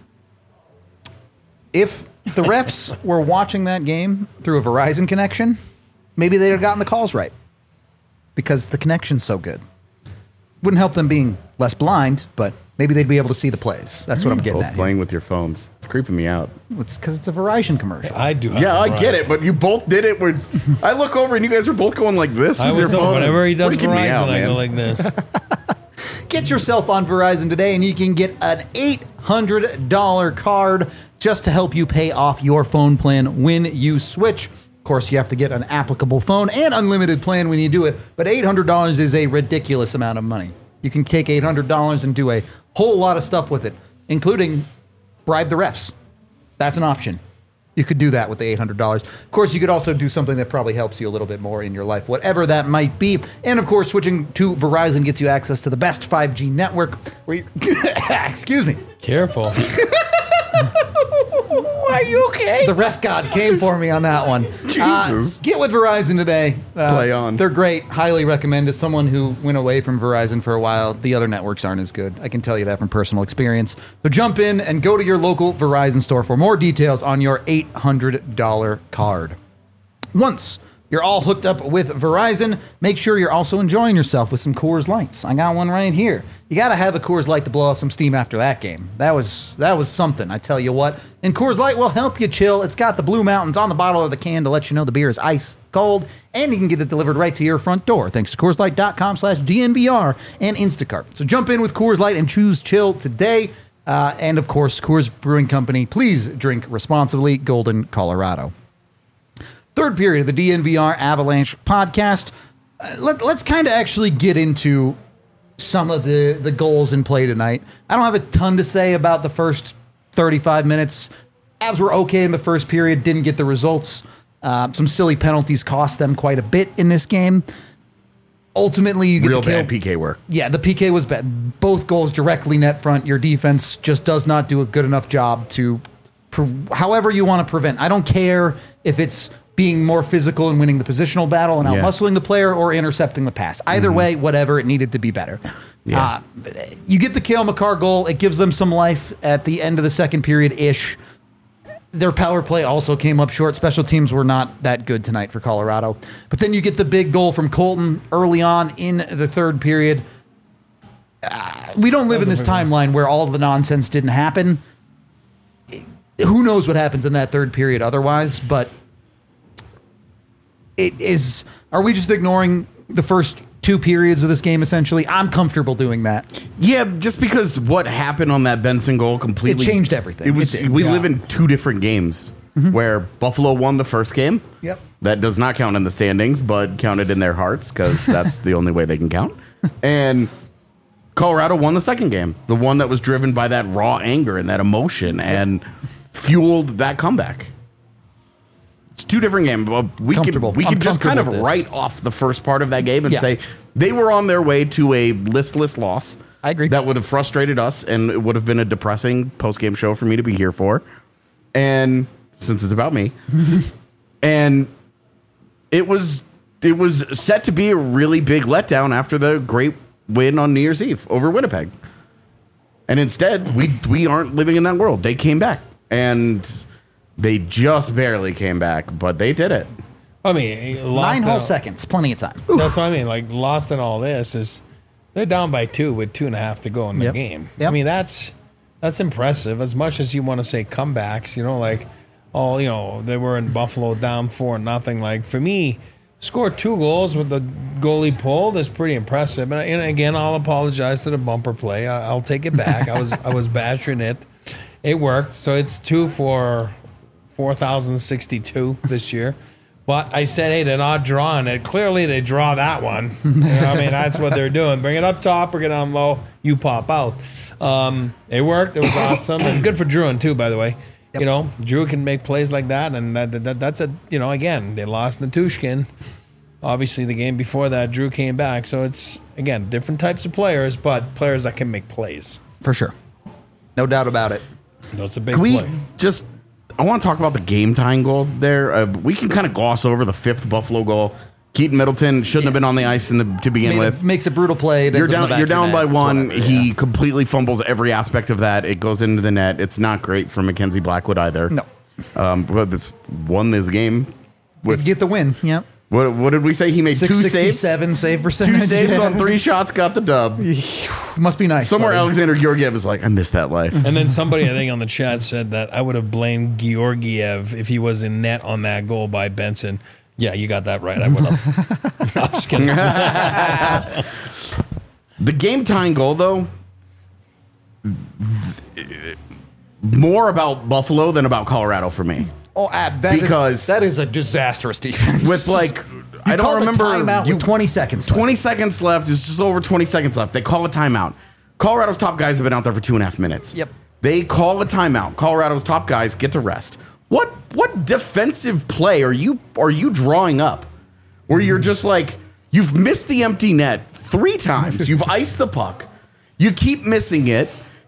if the refs were watching that game through a Verizon connection, maybe they'd have gotten the calls right because the connection's so good. Wouldn't help them being less blind, but maybe they'd be able to see the plays. That's what I'm getting Both at. Here. playing with your phones. It's creeping me out. It's because it's a Verizon commercial. I do. Have Yeah, I Verizon. get it, but you both did it. Where I look over and you guys are both going like this I with your was phone. whenever he does Freaking me Verizon, out, I man. go like this. Get yourself on Verizon today and you can get an eight hundred dollars card just to help you pay off your phone plan when you switch. Of course, you have to get an applicable phone and unlimited plan when you do it, but eight hundred dollars is a ridiculous amount of money. You can take eight hundred dollars and do a whole lot of stuff with it, including bribe the refs. That's an option. You could do that with the eight hundred dollars. Of course, you could also do something that probably helps you a little bit more in your life, whatever that might be. And of course, switching to Verizon gets you access to the best five G network. Where you, excuse me. Careful. Are you okay? The ref god came for me on that one. Jesus. Uh, get with Verizon today. Uh, Play on. They're great. Highly recommend. As someone who went away from Verizon for a while, the other networks aren't as good. I can tell you that from personal experience. So jump in and go to your local Verizon store for more details on your eight hundred dollars card. Once you're all hooked up with Verizon, make sure you're also enjoying yourself with some Coors Lights. I got one right here. You got to have a Coors Light to blow off some steam after that game. That was that was something, I tell you what. And Coors Light will help you chill. It's got the Blue Mountains on the bottle of the can to let you know the beer is ice cold, and you can get it delivered right to your front door thanks to Coors Light dot com slash D N V R and Instacart. So jump in with Coors Light and choose chill today. Uh, and, of course, Coors Brewing Company, please drink responsibly. Golden, Colorado. Third period of the D N V R Avalanche podcast. Uh, let, let's kind of actually get into some of the, the goals in play tonight. I don't have a ton to say about the first thirty-five minutes. Avs were okay in the first period, didn't get the results. Uh, some silly penalties cost them quite a bit in this game. Ultimately, you get Real the kill. bad P K work. Yeah, the P K was bad. Both goals directly net front. Your defense just does not do a good enough job to, pre- however you want to prevent. I don't care if it's being more physical and winning the positional battle and out Yeah. hustling the player or intercepting the pass. Either Mhm. way, whatever, it needed to be better. Yeah. Uh, you get the Cale Makar goal. It gives them some life at the end of the second period-ish. Their power play also came up short. Special teams were not that good tonight for Colorado. But then you get the big goal from Colton early on in the third period. Uh, we don't live in this timeline where all the nonsense didn't happen. Who knows what happens in that third period otherwise, but it is. Are we just ignoring the first two periods of this game, essentially? I'm comfortable doing that. Yeah, just because what happened on that Benson goal completely It changed everything. It was. It did, we yeah. live in two different games where Buffalo won the first game. Yep. That does not count in the standings, but counted in their hearts because that's the only way they can count. And Colorado won the second game, the one that was driven by that raw anger and that emotion and fueled that comeback. It's two different games. But we could we I'm could just kind of comfortable with this. write off the first part of that game and Yeah. say they were on their way to a listless loss. I agree. That would have frustrated us, and it would have been a depressing post game show for me to be here for. And since it's about me, and it was it was set to be a really big letdown after the great win on New Year's Eve over Winnipeg. And instead, we we aren't living in that world. They came back, and they just barely came back, but they did it. I mean, lost Nine in whole all- seconds, plenty of time. That's what I mean. Like, lost in all this is they're down by two with two and a half to go in the Yep. game. Yep. I mean, that's that's impressive. As much as you want to say comebacks, you know, like, oh, you know, they were in Buffalo down four nothing. Like, for me, score two goals with the goalie pulled is pretty impressive. And, and again, I'll apologize to the bumper play. I, I'll take it back. I was I was bashing it. It worked. So it's two for four thousand sixty-two this year. But I said, hey, they're not drawing it. Clearly, they draw that one. You know, I mean, that's what they're doing. Bring it up top, bring it down low, you pop out. Um, it worked. It was awesome. And good for Druin, too, by the way. You know, Drew can make plays like that. And that, that, that's a, you know, again, they lost Natushkin. Obviously, the game before that, Drew came back. So it's, again, different types of players, but players that can make plays. For sure. No doubt about it. That's a big Can we play. just? I want to talk about the game tying goal there. Uh, we can kind of gloss over the fifth Buffalo goal. Keaton Middleton shouldn't have been on the ice in the, to begin Made a- with. makes a brutal play. it You're ends up in down. the back You're of your down net. by It's one. whatever, he yeah. completely fumbles every aspect of that. It goes into the net. It's not great for Mackenzie Blackwood either. No. Um, but it's won this game. With Get the win. Yep. what? What did we say? He made two saves. six sixty-seven save percentage. Two saves Yeah. on three shots. Got the dub. Must be nice. Somewhere buddy. Alexander Georgiev is like, I missed that life. And then somebody, I think, on the chat said that I would have blamed Georgiev if he was in net on that goal by Benson. Yeah, you got that right. I would have. I'm just kidding. The game tying goal, though, more about Buffalo than about Colorado for me. Oh, Ab, that Because- is, that is a disastrous defense. With like, You I don't called a remember. timeout you, with twenty seconds. left. twenty seconds left. It's just over twenty seconds left. They call a timeout. Colorado's top guys have been out there for two and a half minutes. Yep. They call a timeout. Colorado's top guys get to rest. What what defensive play are you are you drawing up? Where you're just like, you've missed the empty net three times. You've iced the puck. You keep missing it.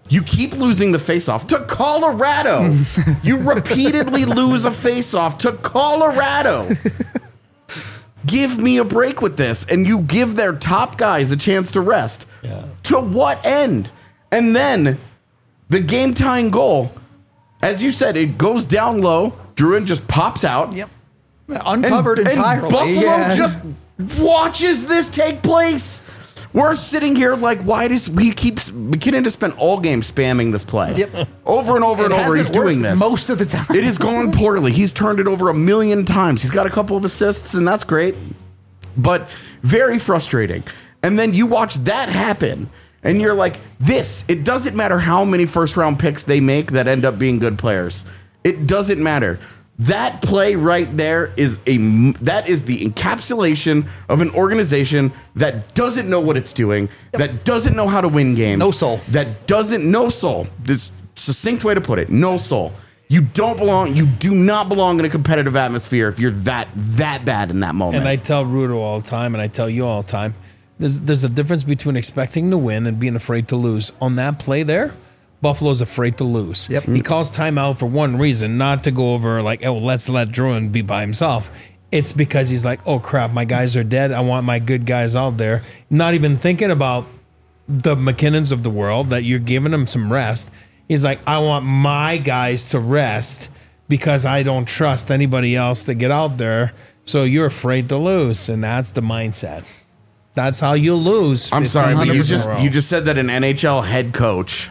You keep losing the faceoff to Colorado. You repeatedly lose a faceoff to Colorado. Give me a break with this. And you give their top guys a chance to rest. Yeah. To what end? And then the game tying goal, as you said, it goes down low. Druin just pops out. Yep. Uncovered and, entirely. And Buffalo yeah. just watches this take place. We're sitting here like, why does he keep McKinnon has spent all game spamming this play? Yep. Over and over It and over. He's hasn't doing worked this most of the time. It has gone poorly. He's turned it over a million times. He's got a couple of assists, and that's great, but very frustrating. And then you watch that happen, and you're like, this. It doesn't matter how many first round picks they make that end up being good players. It doesn't matter. That play right there is a that is the encapsulation of an organization that doesn't know what it's doing, yep. that doesn't know how to win games, no soul, that doesn't no soul. This succinct way to put it: no soul. You don't belong. You do not belong in a competitive atmosphere if you're that that bad in that moment. And I tell Rudo all the time, and I tell you all the time, there's there's a difference between expecting to win and being afraid to lose. On that play there, Buffalo's afraid to lose. Yep. He calls timeout for one reason, not to go over like, oh, let's let Druin be by himself. It's because he's like, oh, crap, my guys are dead. I want my good guys out there. Not even thinking about the McKinnons of the world that you're giving them some rest. He's like, I want my guys to rest because I don't trust anybody else to get out there. So you're afraid to lose. And that's the mindset. That's how you lose. I'm sorry, but you just, in a row. you just said that an N H L head coach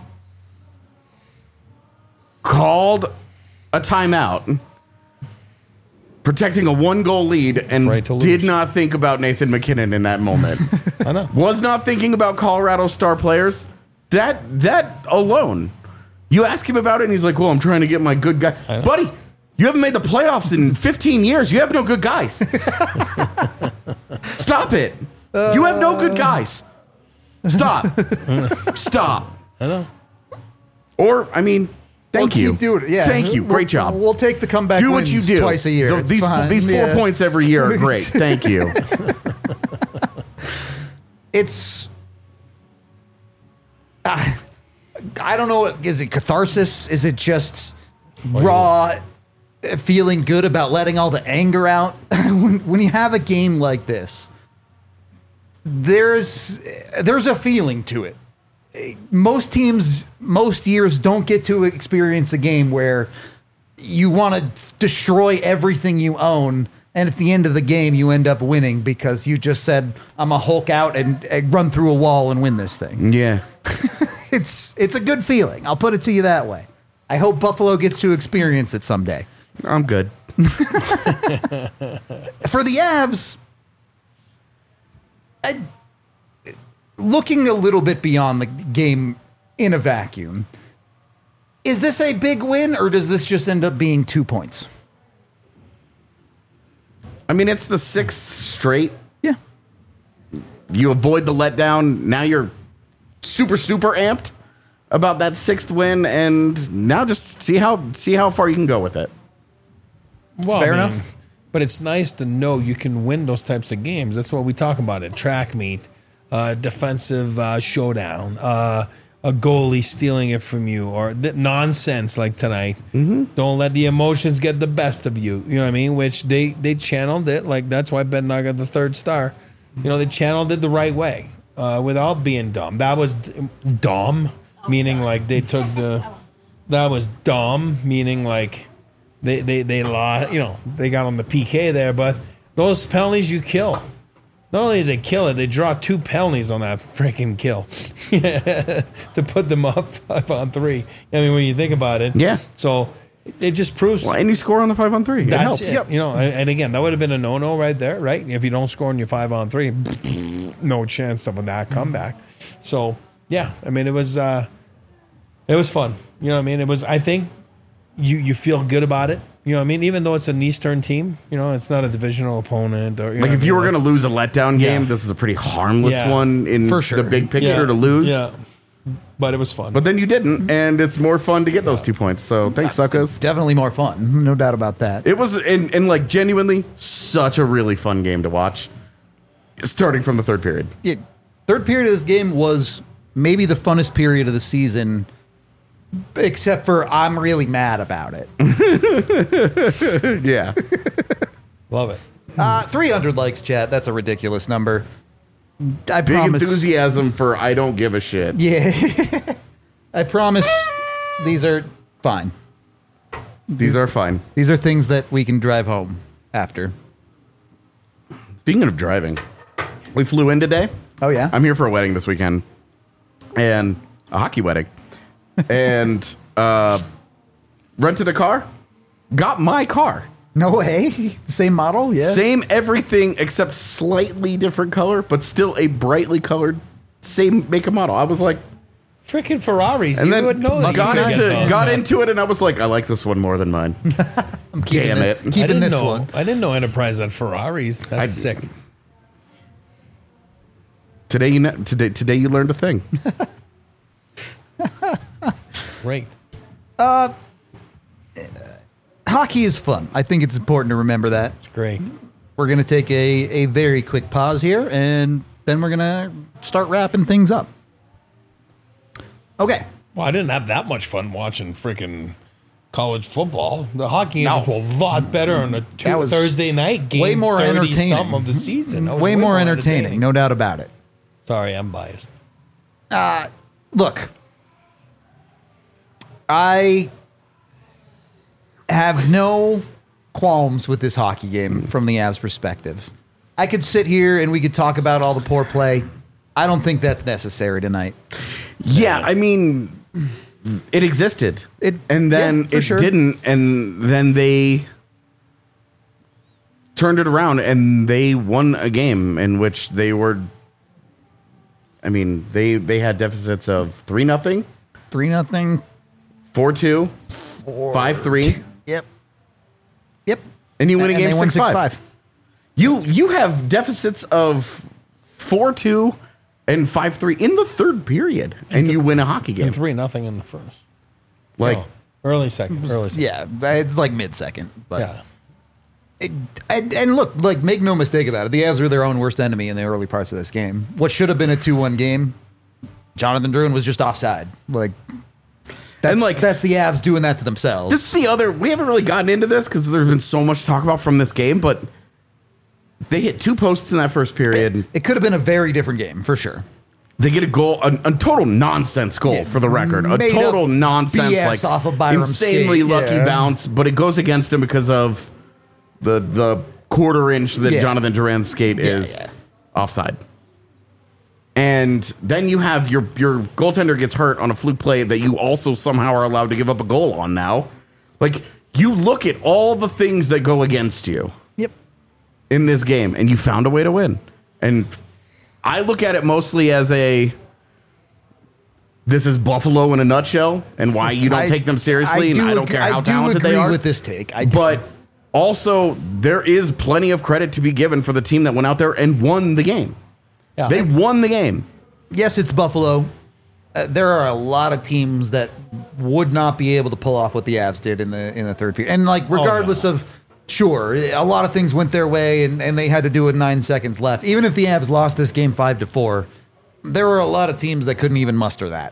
called a timeout, protecting a one-goal lead, and did not think about Nathan McKinnon in that moment. I know. Was not thinking about Colorado star players. That that alone. You ask him about it, and he's like, well, I'm trying to get my good guy. Buddy, you haven't made the playoffs in fifteen years. You have no good guys. Stop it. Uh, you have no good guys. Stop. Stop. I know. Or, I mean... Thank we'll you. Keep doing it. Yeah. Thank you. We'll, Great job. We'll take the comeback do wins what you do twice a year. The, these fine. these four yeah. points every year are great. Thank you. It's uh, I don't know. Is it catharsis? Is it just raw feeling good about letting all the anger out? when, when you have a game like this, there's there's a feeling to it. Most teams, most years don't get to experience a game where you want to destroy everything you own, and at the end of the game, you end up winning because you just said, I'm a Hulk out and, and run through a wall and win this thing. Yeah. it's it's a good feeling. I'll put it to you that way. I hope Buffalo gets to experience it someday. I'm good. For the Avs, I, looking a little bit beyond the game in a vacuum, is this a big win or does this just end up being two points? I mean, it's the sixth straight. Yeah. You avoid the letdown. Now you're super, super amped about that sixth win, and now just see how see how far you can go with it. Well, Fair I mean, enough. But it's nice to know you can win those types of games. That's what we talk about at track meet. Uh, defensive uh, showdown, uh, a goalie stealing it from you, or th- nonsense like tonight. Mm-hmm. Don't let the emotions get the best of you. You know what I mean? Which they, they channeled it. Like, that's why Ben Nog got the third star. You know, they channeled it the right way uh, without being dumb. That was d- dumb, meaning like they took the. That was dumb, meaning like they they they lost. You know, they got on the P K there, but those penalties you kill. Not only did they kill it, they draw two penalties on that freaking kill to put them up five on three. I mean, when you think about it, yeah. So it just proves. Well, and you score on the five on three. It That's helps. it. Yep. You know, and again, that would have been a no-no right there, right? If you don't score on your five on three, no chance of that comeback. So yeah, I mean, it was uh, it was fun. You know what I mean? It was. I think you you feel good about it. You know what I mean? Even though it's an Eastern team, you know, it's not a divisional opponent. Or, you like know if what you I were mean? going to lose a letdown game, Yeah. this is a pretty harmless Yeah. one in For sure. the big picture Yeah. to lose. Yeah. But it was fun. But then you didn't, and it's more fun to get those two points. So thanks, suckers. Definitely more fun. No doubt about that. It was, and, and like genuinely, such a really fun game to watch, starting from the third period. Yeah, third period of this game was maybe the funnest period of the season Except for I'm really mad about it. Yeah. Love it. Uh, three hundred likes, chat. That's a ridiculous number. I Big promise. enthusiasm for I don't give a shit. Yeah. I promise these are fine. These are fine. These are things that we can drive home after. Speaking of driving, we flew in today. Oh, yeah? I'm here for a wedding this weekend. And a hockey wedding. And uh, rented a car. Got my car. No way. Same model? Yeah. Same everything except slightly different color, but still a brightly colored same make and model. I was like, freaking Ferraris. and You then would know that. got You into get those. got into it, and I was like, I like this one more than mine. I'm keeping Damn it! it. Keeping I didn't this know, one. I didn't know Enterprise had Ferraris. That's I- sick. Today you know, today today you learned a thing. Great. Hockey is fun. I think it's important to remember that. It's great. We're going to take a, a very quick pause here, and then we're going to start wrapping things up. Okay. Well, I didn't have that much fun watching freaking college football. The hockey No. games were a lot better on a two That was Thursday night game. way more entertaining. Something of the season. That was Way, more entertaining, no doubt about it. Sorry, I'm biased. Look, I have no qualms with this hockey game from the Avs perspective. I could sit here and we could talk about all the poor play. I don't think that's necessary tonight. Yeah, I mean, it existed, It- and then yeah, for it sure. didn't, and then they turned it around, and they won a game in which they were. I mean, they they had deficits of three nothing, Three nothing. four two, five three, Yep. Yep. and you win a And game they won six five. You you have deficits of four two and five three in the third period, and you win a hockey game. And three nothing in the first. Like No, early second. Early second. Yeah, it's like mid second, but Yeah. it, and, and look, like make no mistake about it, the Avs were their own worst enemy in the early parts of this game. What should have been a two one game, Jonathan Drouin was just offside. Like, that's And, like- like that's the Avs doing that to themselves. this is the other. We haven't really gotten into this because there's been so much to talk about from this game, but they hit two posts in that first period. it could have been a very different game for sure. They get a goal, a, a total nonsense goal Yeah, for the record, a made total up nonsense, B S like off of Byram's insanely skate, lucky yeah. bounce, but it goes against him because of the the quarter inch that Yeah. Jonathan Duran's skate Yeah, is yeah. offside. And then you have your your goaltender gets hurt on a fluke play that you also somehow are allowed to give up a goal on now. Like, you look at all the things that go against you Yep. in this game, and you found a way to win. And I look at it mostly as a this is Buffalo in a nutshell, and why you don't I- take them seriously, I and do I don't ag- care I how do talented they agree are. with this take. I do. But also, there is plenty of credit to be given for the team that went out there and won the game. Yeah. They won the game. Yes, it's Buffalo. Uh, there are a lot of teams that would not be able to pull off what the Avs did in the in the third period. And like, regardless of, sure, a lot of things went their way, and, and they had to do it with nine seconds left. Even if the Avs lost this game five to four, there were a lot of teams that couldn't even muster that.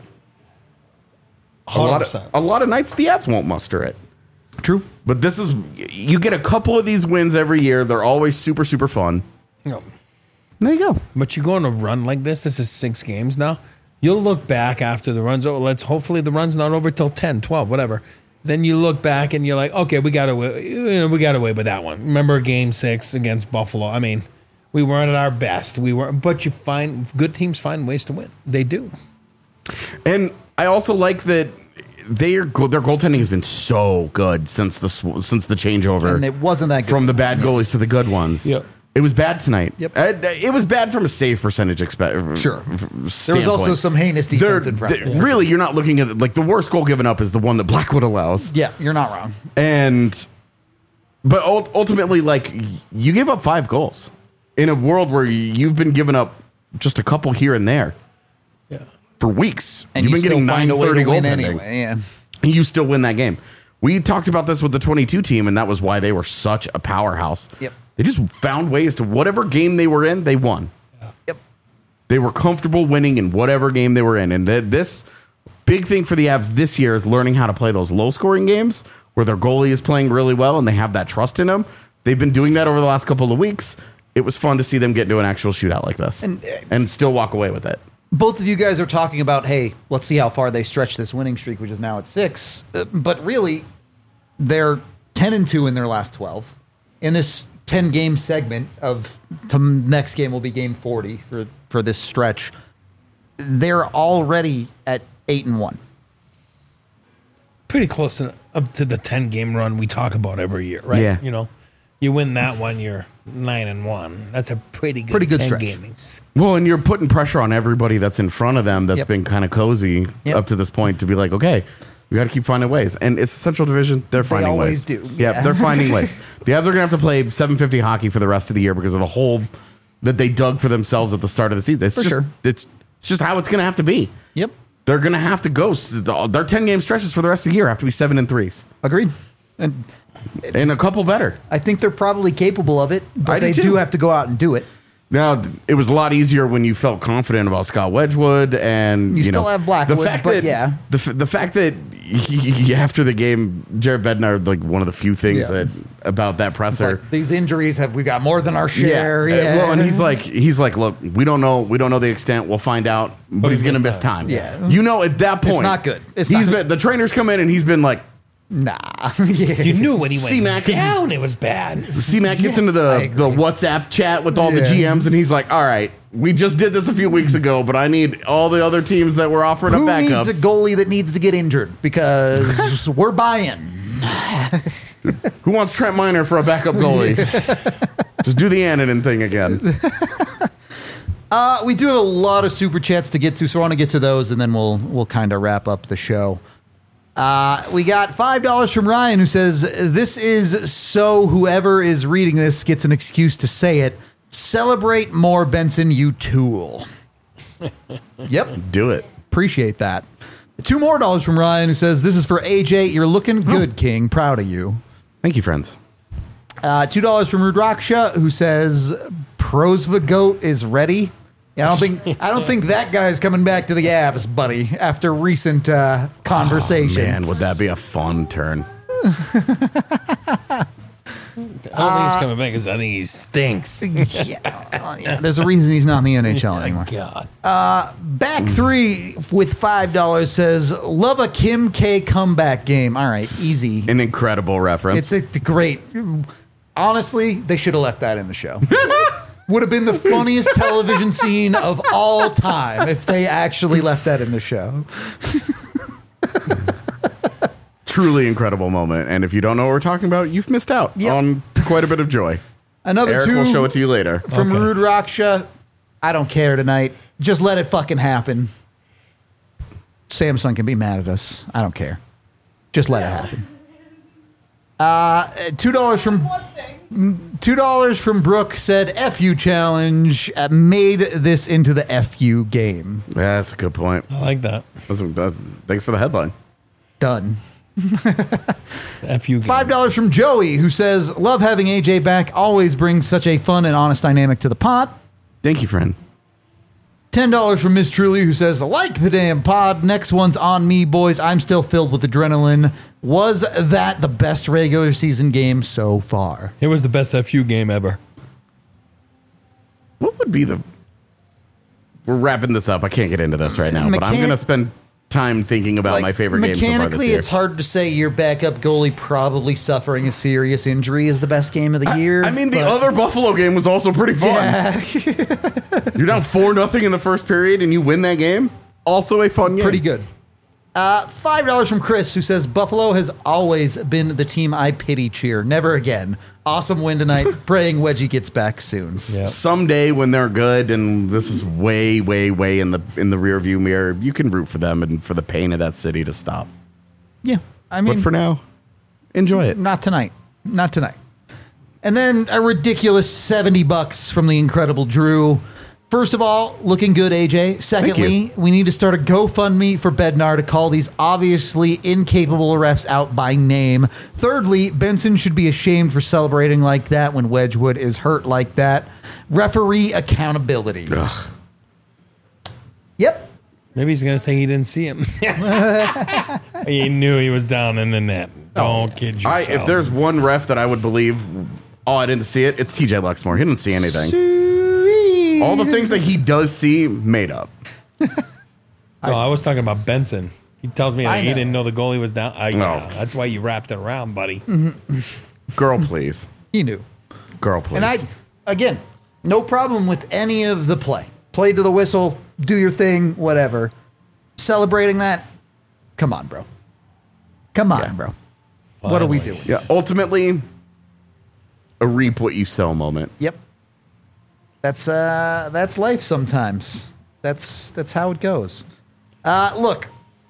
A lot, of, percent. a lot of nights the Avs won't muster it. True. But this is, you get a couple of these wins every year. They're always super, super fun. No. There you go. But you go on a run like this, this is six games now. You'll look back after the run's over. Let's hopefully the run's not over till ten, twelve, whatever. Then you look back and you're like, okay, we got away, you know, we got away with that one. Remember game six against Buffalo? I mean, we weren't at our best. We were, but you find good teams find ways to win. They do. And I also like that their their goaltending has been so good since the sw- since the changeover. And it wasn't that good. From the bad goalies to the good ones. Yep. It was bad tonight. Yep. Uh, It was bad from a save percentage. Expe- Sure. standpoint. There was also some heinous defense in front. they're- Really, you're not looking at it, like the worst goal given up is the one that Blackwood allows. Yeah, you're not wrong. And but ult- ultimately, like, you give up five goals in a world where you've been giving up just a couple here and there Yeah. for weeks. And You've you been getting still find nine a way thirty to win goaltending. anyway. Yeah. And you still win that game. We talked about this with the twenty-two team, and that was why they were such a powerhouse. Yep. They just found ways to whatever game they were in, they won. Yep. They were comfortable winning in whatever game they were in. And th- this big thing for the Avs this year is learning how to play those low-scoring games where their goalie is playing really well and they have that trust in him. They've been doing that over the last couple of weeks. It was fun to see them get into an actual shootout like this and, and still walk away with it. Both of you guys are talking about, hey, let's see how far they stretch this winning streak, which is now at six. Uh, but really, they're ten and two in their last twelve. In this ten-game segment of the next game will be game forty for, for this stretch, they're already at eight and one. Pretty close to, up to the ten-game run we talk about every year, right? Yeah. You know, you win that one, you're nine and one. That's a pretty good, Pretty good ten stretch. gamings. Well, and you're putting pressure on everybody that's in front of them that's Yep. been kind of cozy Yep. up to this point to be like, okay, we got to keep finding ways. And it's a Central Division. They're finding always ways. do. Yeah, Yeah. they're finding ways. The Avs are going to have to play seven fifty hockey for the rest of the year because of the hole that they dug for themselves at the start of the season. It's For just, sure. it's, it's just how it's going to have to be. Yep. They're going to have to go. Their ten-game stretches for the rest of the year have to be seven and threes. Agreed. And And a couple better. I think they're probably capable of it, but I do they too. do have to go out and do it. Now, it was a lot easier when you felt confident about Scott Wedgwood, and You you, still know, have Blackwood, The fact but that, yeah. the f- the fact that he, after the game, Jared Bednar, like one of the few things Yeah. that about that It's presser. like, these injuries have we got more than our share. Uh, Yeah. Well, and he's like, he's like, look, we don't know, we don't know the extent. We'll find out, but, he's he going to missed miss time. Yeah. you know, at that point, It's not good. It's he's not- been the trainers come in and he's been like, nah. Yeah. You knew when he went C-Mac is- down, it was bad. C-Mac gets Yeah, into I the, the agree. WhatsApp chat with all the Yeah. G Ms, and he's like, all right, we just did this a few weeks ago, but I need all the other teams that were offering Who up backups. needs a goalie that needs to get injured? Because we're buying. Who wants Trent Miner for a backup goalie? Just do the Annonin thing again. Uh, we do have a lot of super chats to get to, so I want to get to those, and then we'll we'll kind of wrap up the show. Uh, we got five dollars from Ryan, who says, this is so whoever is reading this gets an excuse to say it. Celebrate more, Benson, you tool. Yep. Do it. Appreciate that. Two more dollars from Ryan, who says, this is for A J. You're looking good, King. Proud of you. Thank you, friends. Uh, Two dollars from Rudraksha, who says, Prosva Goat is ready. Yeah, I don't think I don't think that guy's coming back to the Avs, buddy. After recent uh, conversations, Oh, man, would that be a fun turn? I don't think he's coming back because I think he stinks. yeah, uh, yeah, there's a reason he's not in the N H L anymore. God. Back three with five dollars says, love a Kim K comeback game. All right, easy. An incredible reference. It's a great. Honestly, they should have left that in the show. Would have been the funniest television scene of all time if they actually left that in the show. Truly incredible moment. And if you don't know what we're talking about, you've missed out Yep. on quite a bit of joy. Another Eric two will show it to you later. from Okay. Rude Raksha. I don't care tonight. Just let it fucking happen. Samsung can be mad at us. I don't care. Just let it happen. Uh, two dollars from two dollars from Brooke said F U challenge uh, made this into the F U game. Yeah, that's a good point. I like that. That's, that's, thanks for the headline. Done. F you. Five dollars from Joey, who says love having A J back. Always brings such a fun and honest dynamic to the pot. Thank you, friend. ten dollars from Miss Truly, who says, like the damn pod. Next one's on me, boys. I'm still filled with adrenaline. Was that the best regular season game so far? It was the best F U game ever. What would be the... We're wrapping this up. I can't get into this right now, but I'm Mechan- going to spend time thinking about my favorite games so far this Mechanically, year. it's hard to say your backup goalie probably suffering a serious injury is the best game of the year. I mean, the but- other Buffalo game was also pretty fun. Yeah. You're down four nothing in the first period and you win that game. Also a fun game. Pretty good. Uh, five dollars from Chris, who says Buffalo has always been the team I pity cheer. Never again. Awesome win tonight. Praying Wedgie gets back soon. Yeah. Someday when they're good, and this is way, way, way in the in the rear view mirror, you can root for them and for the pain of that city to stop. Yeah, I mean, But for now, enjoy it. not tonight. Not tonight. And then a ridiculous seventy bucks from the incredible Drew. First of all, looking good, A J. Secondly, we need to start a GoFundMe for Bednar to call these obviously incapable refs out by name. Thirdly, Benson should be ashamed for celebrating like that when Wedgwood is hurt like that. Referee accountability. Ugh. Yep. Maybe he's going to say he didn't see him. He knew he was down in the net. Don't oh, kid yourself. I, if there's one ref that I would believe, oh, I didn't see it, it's T J Luxmore. He didn't see anything. Sweet. All the things that he does see, made up. No, I was talking about Benson. He tells me that he didn't know the goalie was down. I, No. yeah, that's why you wrapped it around, buddy. Girl, please. He knew. Girl, please. And I, again, no problem with any of the play. Play to the whistle, do your thing, whatever. Celebrating that, come on, bro. Come on, Yeah. bro. What are we Finally. doing? Yeah, ultimately, a reap what you sow moment. Yep. That's uh that's life sometimes. That's that's how it goes. Uh look.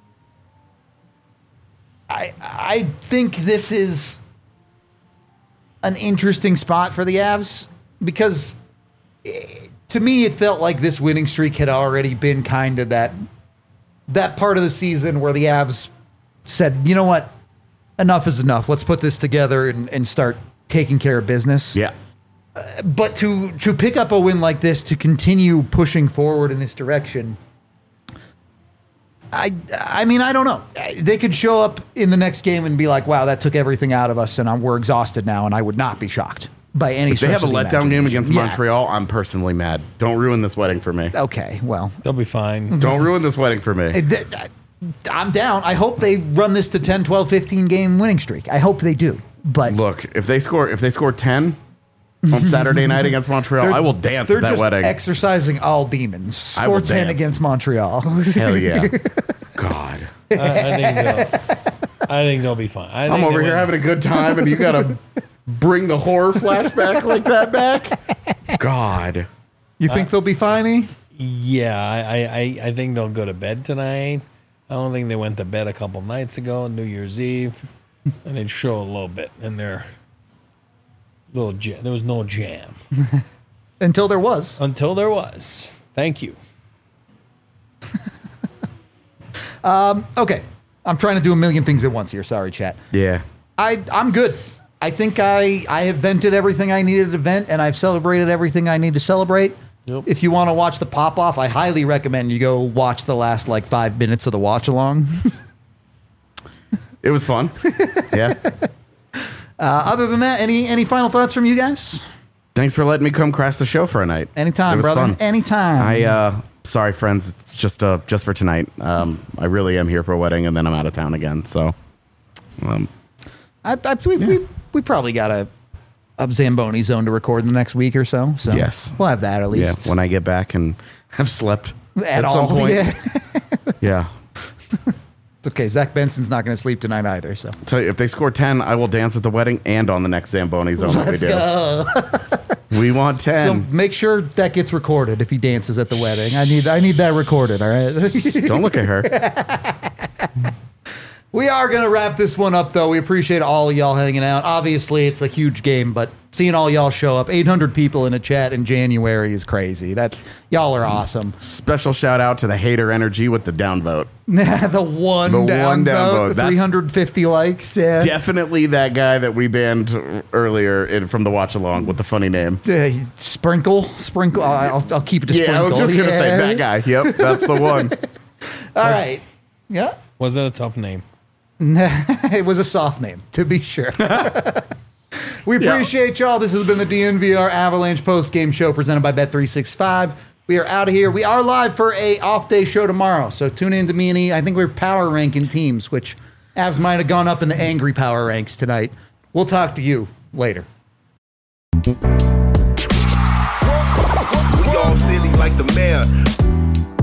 I I think this is an interesting spot for the Avs because eh, to me it felt like this winning streak had already been kind of that that part of the season where the Avs said, "You know what? Enough is enough. Let's put this together and, and start taking care of business." Yeah. But to to pick up a win like this, to continue pushing forward in this direction, I I mean, I don't know. They could show up in the next game and be like, "Wow, that took everything out of us, and I'm, we're exhausted now," and I would not be shocked by any. If they stretch have a of the letdown game against imagination. Yeah. Montreal, I'm personally mad. Don't ruin this wedding for me. Okay, well, They'll be fine. Don't ruin this wedding for me. th- th- I'm down. I hope they run this to ten, twelve, fifteen game winning streak. I hope they do. But Look, if they score, if they score ten on Saturday night against Montreal, they're- I will dance they're at that just wedding. exercising all demons. I will Score ten dance. against Montreal. Hell yeah. God. I, I think they'll. I think they'll be fine. I think I'm they over here win. having a good time, and you gotta bring the horror flashback like that back. God. You think they'll be fine? E? Yeah, I, I, I think they'll go to bed tonight. I don't think they went to bed a couple nights ago, New Year's Eve, and they'd show a little bit in their little jam. There was no jam Until there was. until there was. Thank you. Okay. I'm trying to do a million things at once here. Sorry, chat. Yeah. I, I'm good. I think I, I have vented everything I needed to vent, and I've celebrated everything I need to celebrate. Yep. If you want to watch the pop off, I highly recommend you go watch the last like five minutes of the watch along. It was fun. Yeah. Uh, other than that, any any final thoughts from you guys? Thanks for letting me come crash the show for a night. Anytime, It was brother. fun. Anytime. I uh sorry friends, it's just uh just for tonight. Um I really am here for a wedding and then I'm out of town again. So um I, I we, we we probably got a a Zamboni zone to record in the next week or so. So Yes. we'll have that at yeah, least. when I get back and have slept At at, all, some point. yeah. Yeah. It's okay. Zach Benson's not going to sleep tonight either. So Tell you, if they score ten, I will dance at the wedding and on the next Zamboni zone that we let's do. go. We want So ten. make sure that gets recorded if he dances at the wedding. I need I need that recorded. All right. Don't look at her. We are going to wrap this one up, though. We appreciate all of y'all hanging out. Obviously, it's a huge game, but seeing all y'all show up, eight hundred people in a chat in January is crazy. That y'all are awesome. Special shout out to the hater energy with the downvote. the one The down one down vote, vote. the That's- three hundred fifty likes. Yeah. Definitely that guy that we banned earlier in, from the watch along with the funny name. Uh, sprinkle, sprinkle. I'll, I'll keep it to Yeah, sprinkle. I was just gonna say Yeah. that guy. Yep, that's the one. All right. Yeah. Was that a tough name? It was a soft name, to be sure. We appreciate y'all. This has been the D N V R Avalanche post-game show presented by Bet three sixty-five. We are out of here. We are live for a off-day show tomorrow, so tune in to me and E. I think we're power ranking teams, which Avs might have gone up in the angry power ranks tonight. We'll talk to you later. We all silly like the mayor.